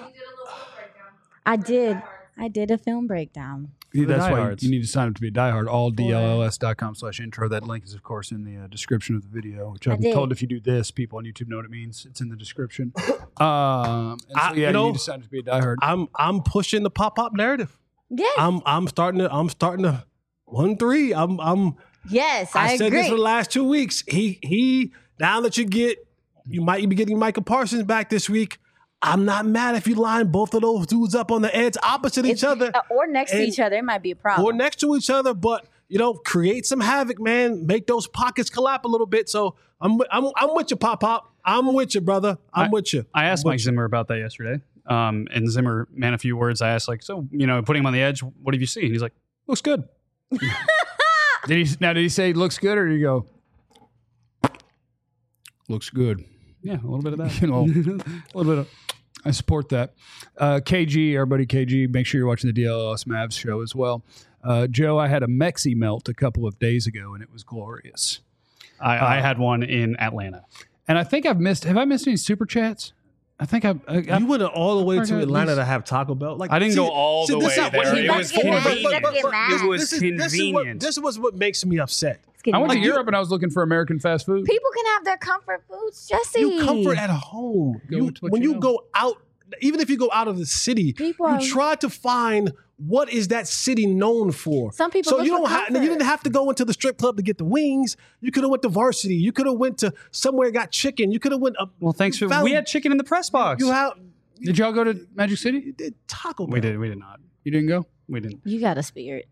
I did a film breakdown. Yeah, the that's why diehards. you need to sign up to be a diehard. alldlls.com/intro. That link is, of course, in the description of the video, which I've been did. told if you do this, people on YouTube know what it means. It's in the description. And so, you you know, need to sign up to be a diehard. I'm pushing the pop narrative. Yes, I'm starting to 1-3. yes, I I said agree. this for the last 2 weeks. He now that you might be getting Micah Parsons back this week. I'm not mad if you line both of those dudes up on the edge opposite each other or next to And- each other. It might be a problem. or next to each other, but create some havoc, man. Make those pockets collapse a little bit. So I'm with you, Pop. I'm with you, brother. I'm with you. I asked Mike Zimmer about that yesterday. And Zimmer, man, a few words. I asked, putting him on the edge, what have you seen? He's like, looks good. Did he say looks good, or did he go looks good? Yeah, a little bit of that. A little bit of. I support that. KG, our buddy KG, make sure you're watching the DLS Mavs show as well. Joe, I had a Mexi melt a couple of days ago, and it was glorious. I had one in Atlanta. And I think have I missed any super chats? I think You went all the way forgot to at Atlanta least- to have Taco Bell. Like I didn't see- go all see, the this way is not what there. he It likes was to do. convenient. It was convenient. This is what makes me upset. It's getting I went to mad. Europe and I was looking for American fast food. People can have their comfort foods, Jesse. You comfort at home. Go with what When you you know. go out, even if you go out of the city, People are- you try to find what is that city known for. Some people So look you for don't have. You comfort. didn't have to go into the strip club to get the wings. You could have went to Varsity. You could have went to somewhere got chicken. You could have went. Well, thanks for. found- We had chicken in the press box. You have. Did y'all go to Magic City? You did Taco Bell. We did not. You didn't go? We didn't. You got a spirit.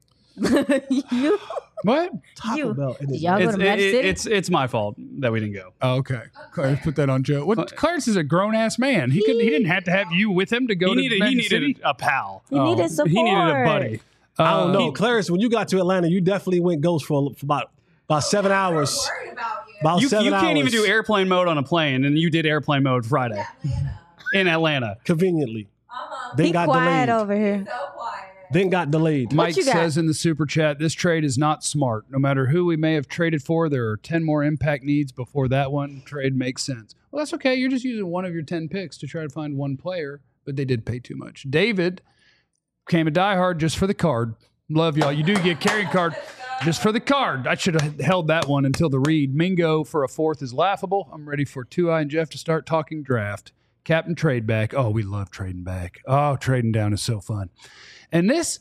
you, What? Taco you- Bell. did y'all go It's, to Magic City? it's my fault that we didn't go. Oh, okay. Clarence put that on Joe. What? Clarence is a grown ass man. He didn't have to have you with him to go He to needed Magic City. a pal. He needed support. He needed a buddy. I don't know, Clarence. When you got to Atlanta, you definitely went ghost for about 7 hours. About You 7 can't even hours. do airplane mode on a plane, and you did airplane mode Friday in Atlanta. Conveniently. Then Be got quiet delayed. over here. Then got delayed. Mike you got? says in the super chat, this trade is not smart. No matter who we may have traded for, there are 10 more impact needs before that one trade makes sense. Well, that's okay. You're just using one of your 10 picks to try to find one player, but they did pay too much. David came a diehard just for the card. Love y'all. You do get carry card just for the card. I should have held that one until the read. Mingo for a fourth is laughable. I'm ready for 2i and Jeff to start talking draft. Captain trade back. Oh, we love trading back. Oh, trading down is so fun. And this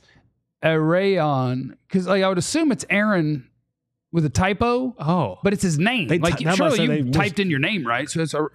Arayon, because I would assume it's Aaron with a typo. Oh, But it's his name. They Like, ty- that surely must say you they typed in your name, right? So it's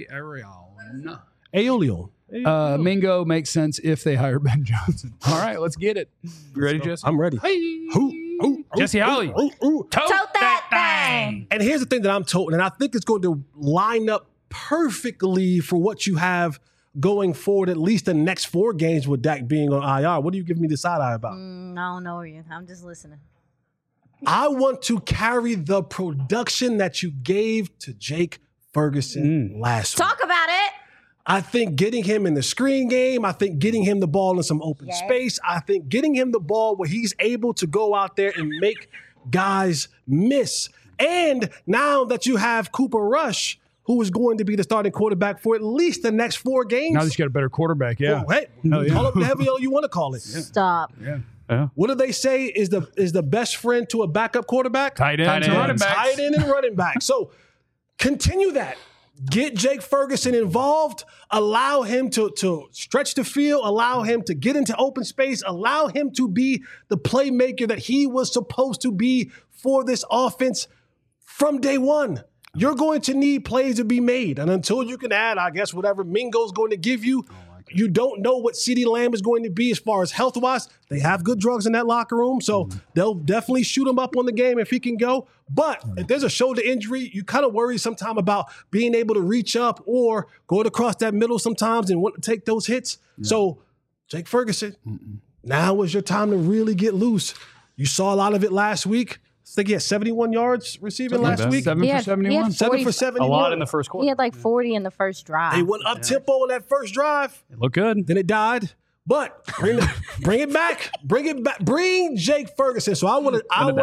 Arayon. Aeolian. Mingo makes sense if they hire Ben Johnson. All right, let's get it. You ready, Jesse? I'm ready. Hey. Jesse Holly. Tote Tote that bang. And here's the thing that I'm told, and I think it's going to line up perfectly for what you have going forward, at least the next 4 games with Dak being on IR. What are you giving me the side eye about? I don't know you. I'm just listening. I want to carry the production that you gave to Jake Ferguson last week. Talk about it. I think getting him in the screen game, I think getting him the ball in some open space, I think getting him the ball where he's able to go out there and make guys miss. And now that you have Cooper Rush, who is going to be the starting quarterback for at least the next 4 games. Now that you got a better quarterback, yeah. Well, hey, call it whatever you want to call it. Stop. Yeah. What do they say is the best friend to a backup quarterback? Tight end, running backs. Tight end and running back. So continue that. Get Jake Ferguson involved. Allow him to stretch the field. Allow him to get into open space. Allow him to be the playmaker that he was supposed to be for this offense from day one. You're going to need plays to be made. And until you can add, I guess, whatever Mingo's going to give you, you don't know what CeeDee Lamb is going to be as far as health-wise. They have good drugs in that locker room, so they'll definitely shoot him up on the game if he can go. But if there's a shoulder injury, you kind of worry sometimes about being able to reach up or going across that middle sometimes and want to take those hits. So, Jake Ferguson, now is your time to really get loose. You saw a lot of it last week. I think he had 71 yards receiving last week. 7 for 71. 7 for 71. A lot in the first quarter. He had like 40 in the first drive. They went up tempo in that first drive. It looked good. Then it died. But bring it back. Bring it back. Bring Jake Ferguson. So I want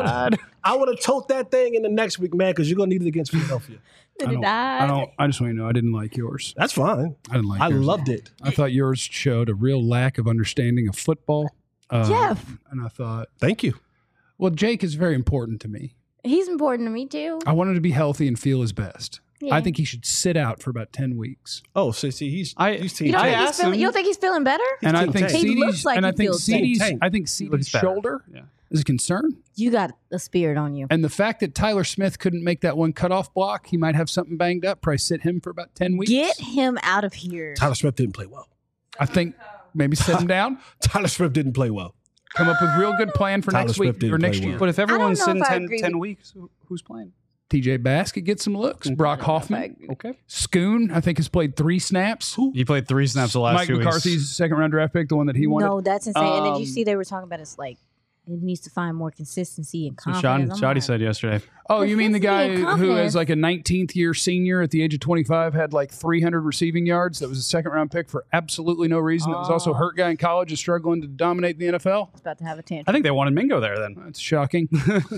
to tote that thing in the next week, man, because you're gonna need it against Philadelphia. Did it die? I just want you to know I didn't like yours. That's fine. I didn't like I yours. loved it. I thought yours showed a real lack of understanding of football. Jeff. And I thought, Thank you. well, Jake is very important to me. He's important to me too. I want him to be healthy and feel his best. Yeah. I think he should sit out for about 10 weeks. Oh, so see, he's You team don't, I think he's asked feeling, him- you don't think he's feeling better? And I Team think tank. He CeeDee's, looks like and I he think feels CeeDee's, tank. I think CeeDee's Looks better. shoulder Yeah. is a concern. You got a spirit on you. And the fact that Tyler Smith couldn't make that one cutoff block, he might have something banged up. Probably sit him for about 10 weeks. Get him out of here. Tyler Smith didn't play well. I think maybe sit him down, Tyler Smith didn't play well. come up with a real good plan for Tyler next Smith week didn't or next play year. well. But if everyone's know sitting if I 10, agree 10 with- weeks, who's playing? TJ Baskett gets some looks. Brock Hoffman. Okay. Schoon, I think, has played 3 snaps. He played 3 snaps the last Mike 2 McCarthy's weeks. second-round draft pick, the one that he wanted. No, that's insane. And did you Um, see they were talking about it's like it needs to find more consistency and So confidence. I'm Shoddy like, said yesterday. Oh, you mean the guy Consistency and who confidence. is like a 19th year senior at the age of 25, had like 300 receiving yards, that was a second-round pick for absolutely no reason, that was also a hurt guy in college, is struggling to dominate the NFL? It's about to have a tantrum. I think they wanted Mingo there then. That's shocking.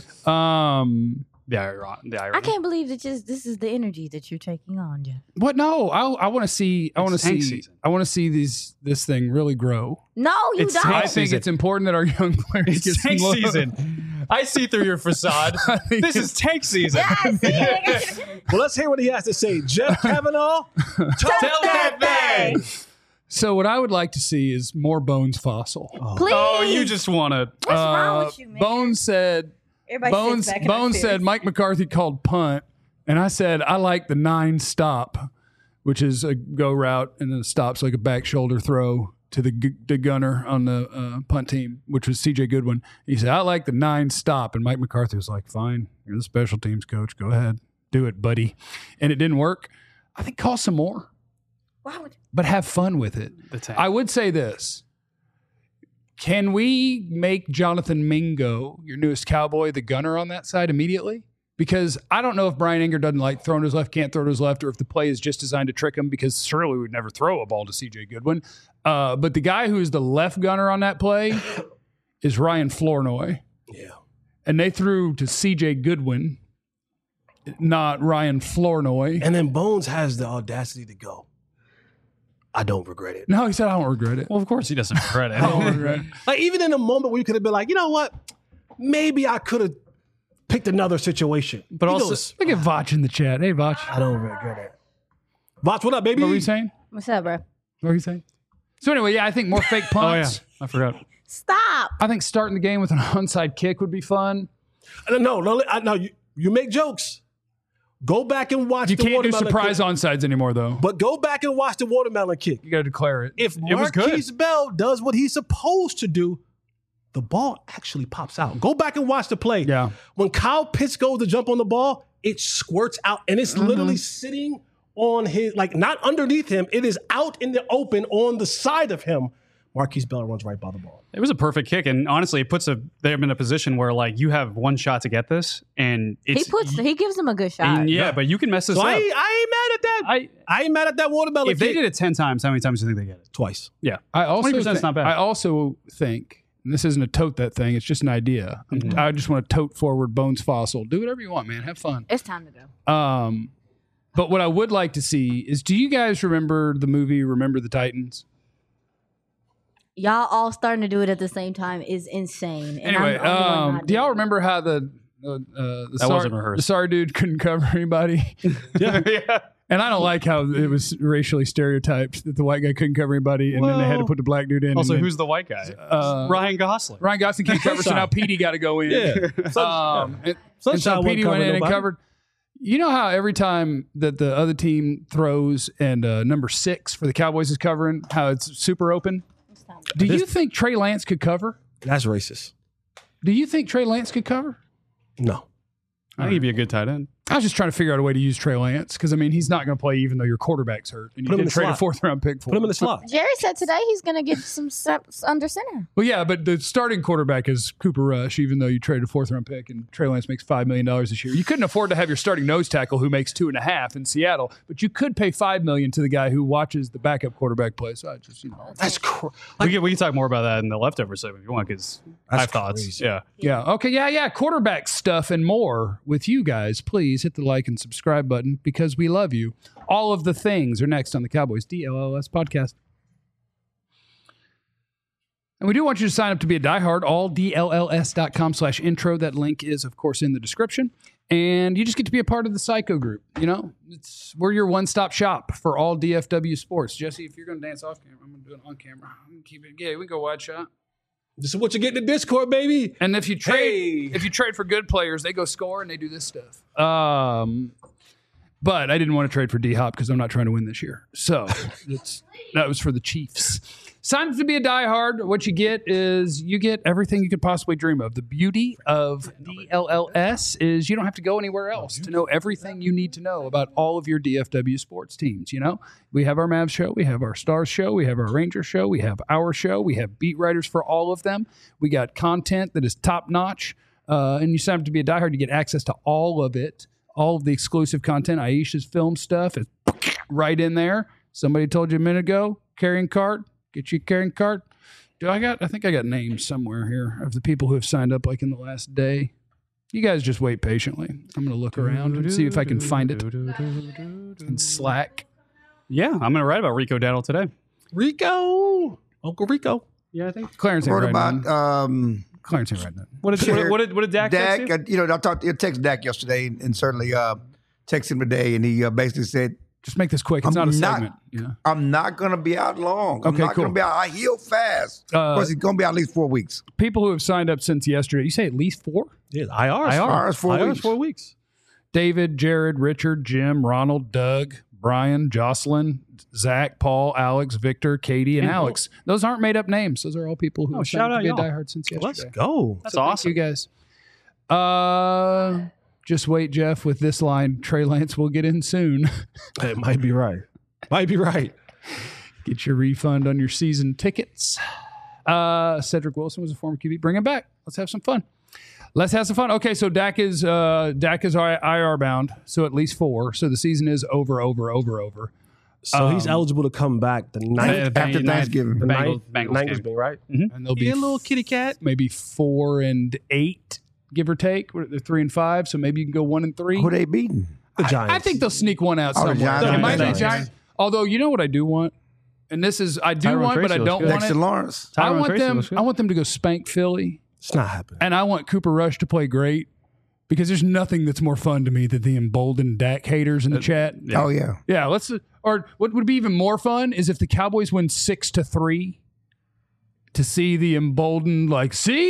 The irony. I can't believe that this is the energy that you're taking on, Jeff. What? No, I want to see. I want to It's tank see. season. I want to see this thing really grow. No, you It's don't. tank I think season. it's important that our young players get It's some tank love. season. I see through your facade. This is tank season. Yeah, I see it. Well, let's hear what he has to say. Jeff Kavanaugh, Tell that thing. So what I would like to see is more Bones Fossil. Please. Oh, you just want to. What's wrong with you, man? Bones said. Everybody sits back in their Bones chairs. said Mike McCarthy called punt, and I said I like the 9 stop, which is a go route and then a stop's like a back shoulder throw to the gunner on the punt team, which was C.J. Goodwin. He said I like the 9 stop, and Mike McCarthy was like, "Fine, you're the special teams coach. Go ahead, do it, buddy." And it didn't work. I think call some more, Why would but have fun with it. The tank. I would say this. Can we make Jonathan Mingo, your newest Cowboy, the gunner on that side immediately? Because I don't know if Brian Anger doesn't like throwing to his left, can't throw to his left, or if the play is just designed to trick him, because surely we would never throw a ball to C.J. Goodwin. But the guy who is the left gunner on that play is Ryan Flournoy. Yeah. And they threw to C.J. Goodwin, not Ryan Flournoy. And then Bones has the audacity to go, I don't regret it. No, he said, I don't regret it. Well, of course he doesn't regret I don't it. regret it. Like, even in a moment where you could have been like, you know what? Maybe I could have picked another situation. But He also- goes, Look at Vach in the chat. Hey, Vach. I don't regret it. Voch, what up, baby? What were you saying? What's up, bro? What were you saying? So anyway, yeah, I think more fake Oh, yeah. punts. I forgot. Stop. I think starting the game with an onside kick would be fun. No, you make jokes. Go back and watch You the can't do watermelon surprise kick. onsides anymore, though. But go back and watch the watermelon kick. You got to declare it. If It was good. Marquise Bell does what he's supposed to do, the ball actually pops out. Go back and watch the play. Yeah. When Kyle Pitts goes to jump on the ball, it squirts out and it's literally sitting on his, like not underneath him. It is out in the open on the side of him. Marquise Bell runs right by the ball. It was a perfect kick, and honestly, it puts them in a position where like you have one shot to get this, and it's, he gives them a good shot. yeah, but you can mess this So up. I ain't mad at that. I ain't mad at that watermelon If they kick. did it 10 times, how many times do you think they get it? Twice. Yeah, I also 20% is not bad. I also think, and this isn't a tote that thing, it's just an idea. I just want to tote forward Bones Fossil. Do whatever you want, man. Have fun. It's time to go. But what I would like to see is, do you guys remember the movie Remember the Titans? Y'all all starting to do it at the same time is insane. And Anyway, I'm the only one not do y'all doing it. remember how the wasn't rehearsed. the SAR dude couldn't cover anybody? yeah. And I don't like how it was racially stereotyped that the white guy couldn't cover anybody, and then they had to put the black dude in. Also, and then, who's the white guy? Ryan Gosling. Ryan Gosling can't cover, so now Petey got to go in. Yeah. And so Sunshine Petey wasn't went in covering and nobody. covered. You know how every time that the other team throws and number 6 for the Cowboys is covering, how it's super open? Do you think Trey Lance could cover? That's racist. Do you think Trey Lance could cover? No. I think he'd be a good tight end. I was just trying to figure out a way to use Trey Lance because, I mean, he's not going to play even though your quarterback's hurt. And Put him you in did the trade a slot. 4th-round pick for Put him in the slot. Jerry said today he's going to get some steps under center. Well, yeah, but the starting quarterback is Cooper Rush, even though you traded a 4th-round pick and Trey Lance makes $5 million this year. You couldn't afford to have your starting nose tackle who makes $2.5 million in Seattle, but you could pay $5 million to the guy who watches the backup quarterback play. So I just, That's crazy. We can talk more about that in the leftover segment if you want, because I have thoughts. crazy. Yeah. yeah, okay, yeah, quarterback stuff and more with you guys. Please hit the like and subscribe button because we love you. All of the things are next on the Cowboys DLLS podcast. And we do want you to sign up to be a diehard, alldlls.com/intro. That link is, of course, in the description. And you just get to be a part of the Psycho group. You know, we're your one-stop shop for all DFW sports. Jesse, if you're going to dance off camera, I'm going to do it on camera. I'm gonna keep it. Yeah, we can go wide shot. This is what you get in the Discord, baby. And if you trade for good players, they go score and they do this stuff. But I didn't want to trade for D-Hop because I'm not trying to win this year. So that was for the Chiefs. Sign up to be a diehard. What you get is you get everything you could possibly dream of. The beauty of DLLS is you don't have to go anywhere else to know everything you need to know about all of your DFW sports teams. You know, we have our Mavs show, we have our Stars show, we have our Rangers show, we have our show, we have beat writers for all of them. We got content that is top notch. And you sign up to be a diehard, you get access to all of it. All of the exclusive content, Aisha's film stuff is right in there. Somebody told you a minute ago, carrying card. Get you a carrying card. I think I got names somewhere here of the people who have signed up like in the last day. You guys just wait patiently. I'm going to look around and see if I can find it in Slack. Yeah, I'm going to write about Rico Dowdle today. Rico. Uncle Rico. Yeah, I think. Clarence ain't Wrote writing about nothing. Clarence ain't writing nothing. What did Dak text you? Dak. I texted Dak yesterday and certainly texted him today, and he basically said, Just make this quick. It's not a segment. Yeah. I'm not going to be out long. I'm Okay, not going cool. to be out. I heal fast. Of course, he's going to be out at least 4 weeks. People who have signed up since yesterday, you say at least 4? Yeah, IR. IR's 4 weeks. 4 weeks. David, Jared, Richard, Jim, Ronald, Doug, Brian, Jocelyn, Zach, Paul, Alex, Victor, Katie, and Alex. Those aren't made up names. Those are all people who have shout signed up to out be a y'all. diehard since yesterday. Let's go. That's So awesome. Thank you guys. Just wait, Jeff, with this line. Trey Lance will get in soon. It might be right. Might be right. Get your refund on your season tickets. Cedric Wilson was a former QB. Bring him back. Let's have some fun. Okay, so Dak is IR bound, so at least 4. So the season is over. So he's eligible to come back the ninth After Thanksgiving. the Bengals Bengals game. game, right? And there'll be Be a little kitty cat. maybe 4 and 8, give or take. They're 3 and 5, so maybe you can go 1 and 3. Who they beating? The Giants. I think they'll sneak one out Oh, the somewhere. Giants. It might be Giants. Giants. Although you know what I do want, and this is I do Tyron want, but Tracy I looks don't good. want Dexter it. Lawrence. I Tyron want Tracy them. looks good. I want them to go spank Philly, It's not happening. and I want Cooper Rush to play great because there's nothing that's more fun to me than the emboldened Dak haters in the chat. Yeah. Oh, yeah. Yeah, let's. Or what would be even more fun is if the Cowboys win 6-3, to see the emboldened, like, see,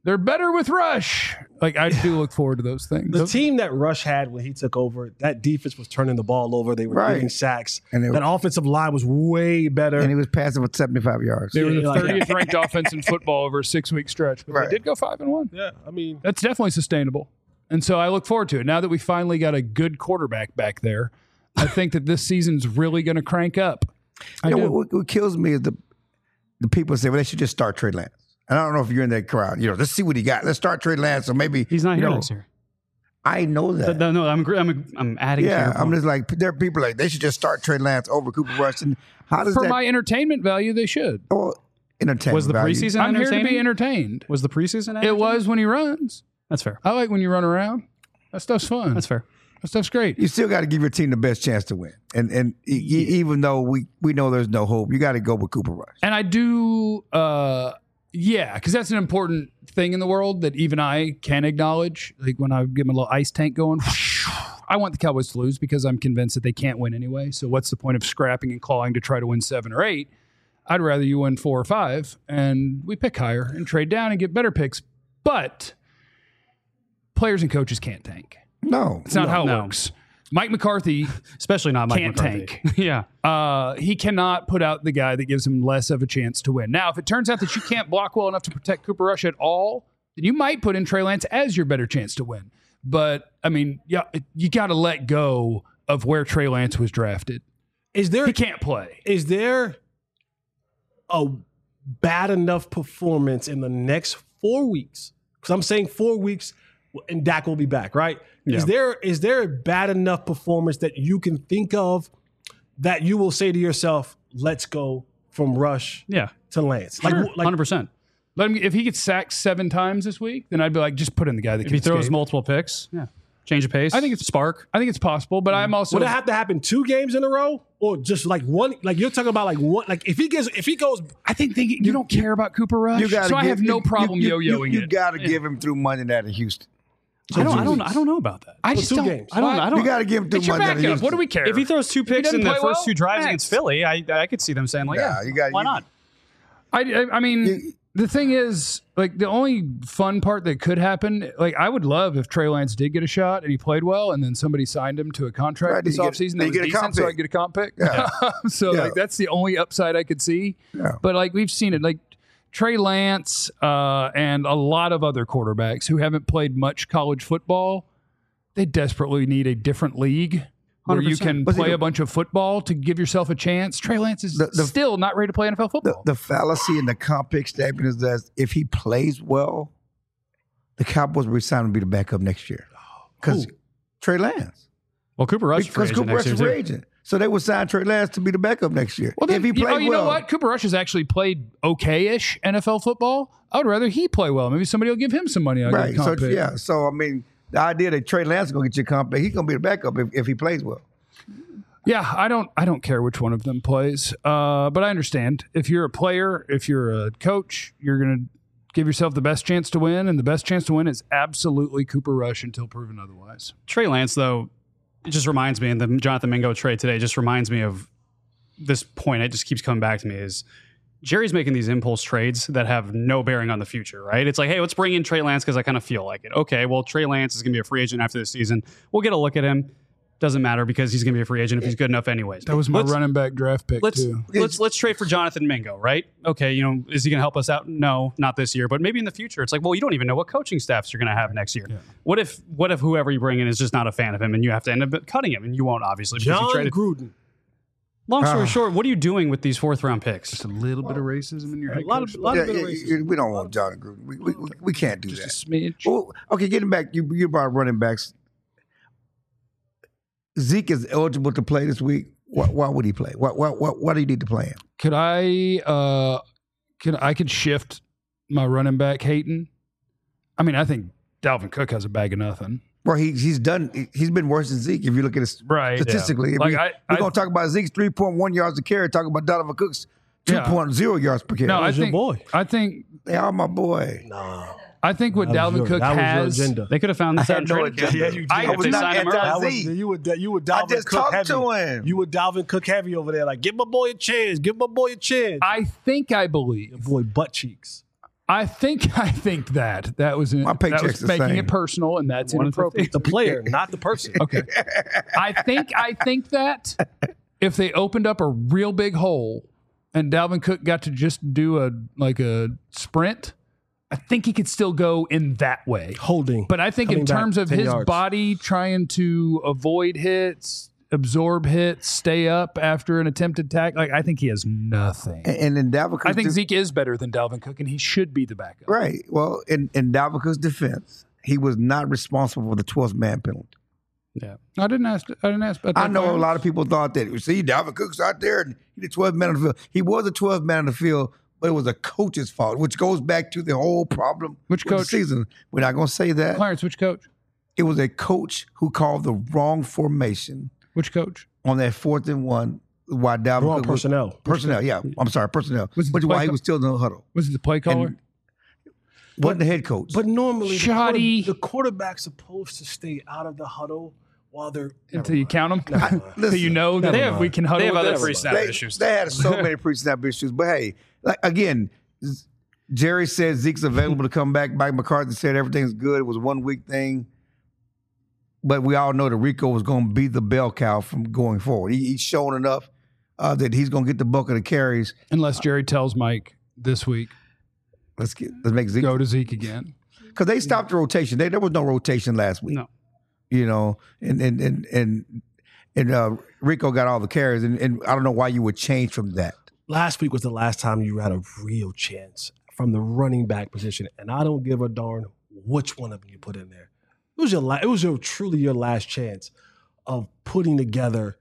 They're better with Rush. Like, I do look forward to those things. The team that Rush had when he took over, that defense was turning the ball over. They were Right. getting sacks. And that offensive line was way better. And he was passing for 75 yards. They were the like- 30th ranked offense in football over a 6-week stretch, but Right. they did go 5-1. yeah, I mean, That's definitely sustainable. And so I look forward to it. Now that we finally got a good quarterback back there, I think that this season's really going to crank up. I You know, do. what kills me is the people say, well, they should just start Trey Lance. And I don't know if you're in that crowd. You know, let's see what he got. Let's start Trey Lance. So maybe He's not you here know, next year. I know that. No, I'm adding. to Yeah, your I'm point. just like, there are people like, they should just start Trey Lance over Cooper Rush. And how does For that my entertainment value, they should. entertainment Was the value? preseason I'm here to entertaining? be entertained. Was the preseason? It entertaining? was when he runs. That's fair. I like when you run around. That stuff's fun. That's fair. That stuff's great. You still got to give your team the best chance to win. And even though we know there's no hope, you got to go with Cooper Rush. And I do, because that's an important thing in the world that even I can acknowledge. Like when I get my little ice tank going, I want the Cowboys to lose because I'm convinced that they can't win anyway. So what's the point of scrapping and clawing to try to win 7 or 8? I'd rather you win 4 or 5 and we pick higher and trade down and get better picks. But players and coaches can't tank. No. It's not how it No. works. Mike McCarthy Especially not Mike can't McCarthy. tank. Yeah. He cannot put out the guy that gives him less of a chance to win. Now, if it turns out that you can't block well enough to protect Cooper Rush at all, then you might put in Trey Lance as your better chance to win. But, I mean, yeah, you got to let go of where Trey Lance was drafted. is there He can't play. is there a bad enough performance in the next 4 weeks? Because I'm saying 4 weeks and Dak will be back, right? Yeah. Is there a bad enough performance that you can think of that you will say to yourself, let's go from Rush Yeah. to Lance? Sure. Like 100%. Let him, if he gets sacked 7 times this week, then I'd be like, just put in the guy that If can he throws escape. multiple picks, yeah. Change of pace. I think it's spark. I think it's possible, but I'm also would it have to happen 2 games in a row? Or just like one? Like you're talking about like one, like if he goes I think you don't care about Cooper Rush, You gotta so I give- have no you- problem you- yo-yoing You it. got to give him through Monday night in Houston. I don't know about that. I just 2 don't. games. I don't. You got to give him through It's your Monday night in backup. Houston. What do we care? If he throws 2 If he picks doesn't in the play first well, 2 drives next. against Philly, I could see them saying like, Yeah, yeah, you got- why you- not? I mean, the thing is, like, the only fun part that could happen, like, I would love if Trey Lance did get a shot and he played well, and then somebody signed him to a contract Right, this then you offseason get- that was then you get a comp decent, so I pick. could get a comp pick. Yeah. So, Yeah. like, that's the only upside I could see. Yeah. But, like, we've seen it. Like, Trey Lance and a lot of other quarterbacks who haven't played much college football, they desperately need a different league where you 100%. can But see, play a bunch of football to give yourself a chance. Trey Lance is still not ready to play NFL football. The fallacy in the comp pick statement is that if he plays well, the Cowboys will resign him to be the backup next year. Because Trey Lance. Well, Cooper Rush is free Because agent Cooper next Rush is year, free too. agent. So they would sign Trey Lance to be the backup next year. Well, then, if he plays you know well. what? Cooper Rush has actually played okay-ish NFL football. I would rather he play well. Maybe somebody will give him some money. I'll Right. get a So, comp pick. yeah. So, I mean, the idea that Trey Lance is going to get you a comp pick, he's going to be the backup if he plays well. Yeah, I don't care which one of them plays. But I understand. If you're a player, if you're a coach, you're going to give yourself the best chance to win, and the best chance to win is absolutely Cooper Rush until proven otherwise. Trey Lance, though, it just reminds me, and the Jonathan Mingo trade today just reminds me of this point. It just keeps coming back to me is Jerry's making these impulse trades that have no bearing on the future, right? It's like, hey, let's bring in Trey Lance because I kind of feel like it. Okay, well, Trey Lance is going to be a free agent after this season. We'll get a look at him. Doesn't matter because he's going to be a free agent if he's good enough anyways. That was my Let's- running back draft pick, Let's too. let's trade for Jonathan Mingo, right? Okay, is he going to help us out? No, not this year, but maybe in the future. It's like, well, you don't even know what coaching staffs you're going to have next year. Yeah. What if whoever you bring in is just not a fan of him, and you have to end up cutting him, and you won't obviously because you John traded. Gruden. Long story short, what are you doing with these 4th round picks? Just a little bit of racism in your head. A lot of bit of racism. We don't want John Gruden. We can't do just a that. smidge. Well, okay, getting back, you brought running backs. Zeke is eligible to play this week. Why would he play? Why do you need to play him? Could I could shift my running back hating? I mean, I think Dalvin Cook has a bag of nothing. Well, he's been worse than Zeke if you look at it Right, statistically. yeah. If Like, we're going to talk about Zeke's 3.1 yards a carry, talk about Donovan Cook's 2.0 yards per carry. No, I was your think boy. I think They are my boy. I think what Dalvin Cook that has. was your agenda. They could have found this out in no training camp. agenda. Yeah, you I did. was If they not sign him early. That was, anti-Zeke. you were Dalvin just Cook talked heavy. to him. You were Dalvin Cook heavy over there. Like, give my boy a chance. Give my boy a chance. I think I believe. Your boy butt cheeks. I think that was My paycheck's that was the making same. it personal, and that's inappropriate. The player, not the person. Okay. I think that if they opened up a real big hole and Dalvin Cook got to just do a sprint, I think he could still go in that way. Holding. But I think Coming in back terms of 10 his yards. body trying to avoid hits, absorb hits, stay up after an attempted tackle, I think he has nothing. And in Dalvin Cook's I think Zeke is better than Dalvin Cook, and he should be the backup. right. Well, in Dalvin Cook's defense, he was not responsible for the 12th man penalty. Yeah, I didn't ask about that. I know a lot of people thought that. See, Dalvin Cook's out there and he the 12th man on the field. He was the 12th man on the field, but it was a coach's fault, which goes back to the whole problem. Which with the coach? season. We're not going to say that. Clarence, which coach? It was a coach who called the wrong formation Which coach? on that 4th and 1. Why Dalvin Wrong Cook was- personnel. Personnel, yeah. I'm sorry, personnel. Was it Which the why play he call- was still in the huddle. Was it the play caller? And wasn't the head coach. But normally, Shoddy. the quarterback's supposed to stay out of the huddle while they're. Until you count them? Never mind. Until you know that Never mind. we can huddle They have with other this? pre-snap issues. They had so many pre-snap issues. But hey, like again, Jerry said Zeke's available to come back. Mike McCarthy said everything's good. It was a 1 week thing. But we all know that Rico was going to be the bell cow from going forward. He's shown enough that he's going to get the bulk of the carries. Unless Jerry tells Mike this week, Let's make Zeke go to Zeke again. because they stopped the rotation. There was no rotation last week. No. You know, and Rico got all the carries, and I don't know why you would change from that. Last week was the last time you had a real chance from the running back position, and I don't give a darn which one of them you put in there. It was truly your last chance of putting together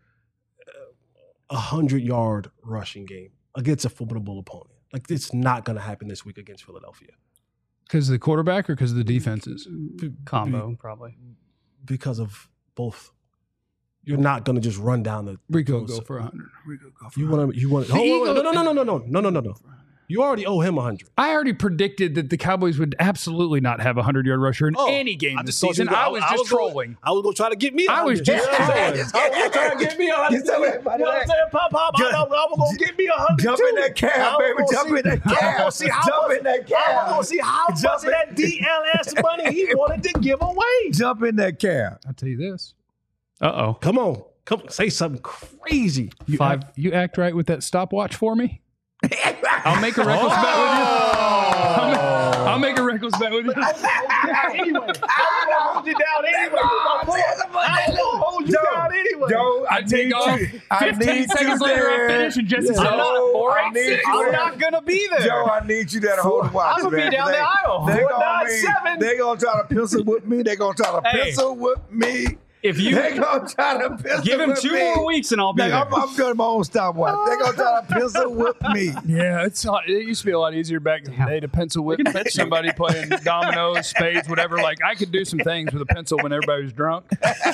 a 100-yard rushing game against a formidable opponent. Like, it's not going to happen this week against Philadelphia Because of the quarterback or because of the defenses? Combo, probably. because of both. You're not going to just run down the. Rico go for 100. Rico go for You 100. want to. You want. The No. Eagles- You already owe him 100. I already predicted that the Cowboys would absolutely not have a 100-yard rusher in Oh, any game I this just told you season. I was just trolling. I was going to try to get me. I was 100. just You know what I'm trolling. saying? I was trying to get me 100. Get some of that money You know what I'm saying? Pop. I was going to get me 100 Jump too. in that cab, baby. Jump in that I was cab. going to see how Jump much. in that I was cab. going to see how much Jump of that DLS money he wanted to give away. Jump in that cab. I'll tell you this. Uh-oh. Come on. Say something crazy. You act right with that stopwatch for me? I'll make a reckless bet with you. I'll make a reckless bet with you. Anyway, I'm going to hold you down anyway. I'm going to hold you down anyway. Joe, I take off. I 15 need seconds you later, I there. finish, and Jesse says, Joe, I 486. need you I'm there. not going to be there. Joe, I need you there to hold the watch. I'm gonna be man. down the aisle. They're 497. going to try to pencil with me. They're going to try to Hey. pencil with me. If you They're going to try to pencil give him with 2 me. more weeks and I'll be there. I'm doing my own stopwatch. They're going to try to pencil with me. Yeah, it used to be a lot easier back in the day to pencil whip somebody playing dominoes, spades, whatever. Like I could do some things with a pencil when everybody was drunk.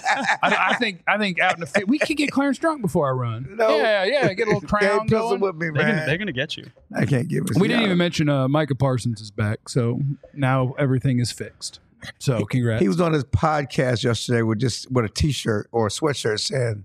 I think out in the field, we could get Clarence drunk before I run. No. Yeah, get a little crown Can't pencil going. with me, They're man. gonna get you. I can't give it. We didn't even mention Micah Parsons is back, so now everything is fixed. So congrats. He was on his podcast yesterday with a T-shirt or a sweatshirt saying,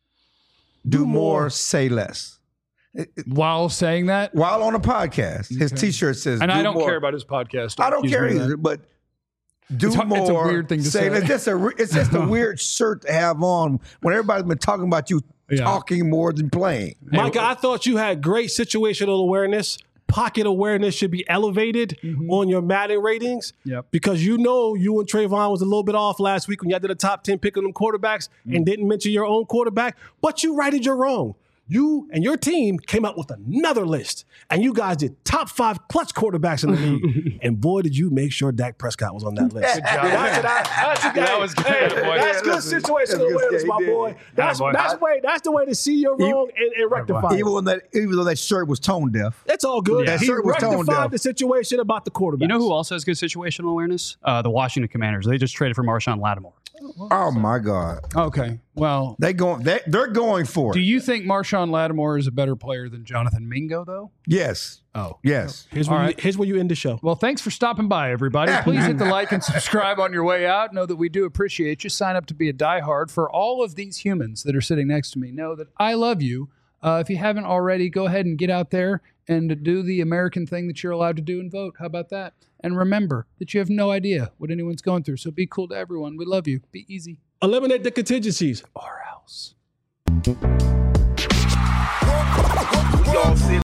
"Do more, say less." While saying that, While on a podcast, his T-shirt says, and "Do I don't more." care about his podcast. I don't Excuse care me, either, but do It's a more. weird thing to say. It's just a weird shirt to have on when everybody's been talking about you Yeah. talking more than playing. Micah, I thought you had great situational awareness. Pocket awareness should be elevated on your Madden ratings. Yep. Because you and Trayvon was a little bit off last week when you did a top 10 pick on them quarterbacks and didn't mention your own quarterback, but you righted your wrong. You and your team came up with another list, and you guys did top 5 clutch quarterbacks in the league. And boy, did you make sure Dak Prescott was on that list. Good job. That was good. Hey, Boy. that's good Listen, situational that's good. awareness, Yeah, my he did. boy. That's the way to see your wrong and rectify it. Even though that shirt was tone deaf. It's all good. That He shirt was tone rectified deaf. the situation about the quarterback. You know who also has good situational awareness? The Washington Commanders. They just traded for Marshawn Lattimore. Oh my God, Okay. Well, they're going for do it. you think Marshawn Lattimore is a better player than Jonathan Mingo, though? Yes, Oh. yes. Here's All where, right. here's where you end the show. Well, thanks for stopping by, everybody. Please hit the like and subscribe on your way out. Know that we do appreciate you. Sign up to be a diehard. For all of these humans that are sitting next to me, know that I love you. If you haven't already, go ahead and get out there and do the American thing that you're allowed to do and vote. How about that? And remember that you have no idea what anyone's going through. So be cool to everyone. We love you. Be easy. Eliminate the contingencies. Or else. We all sit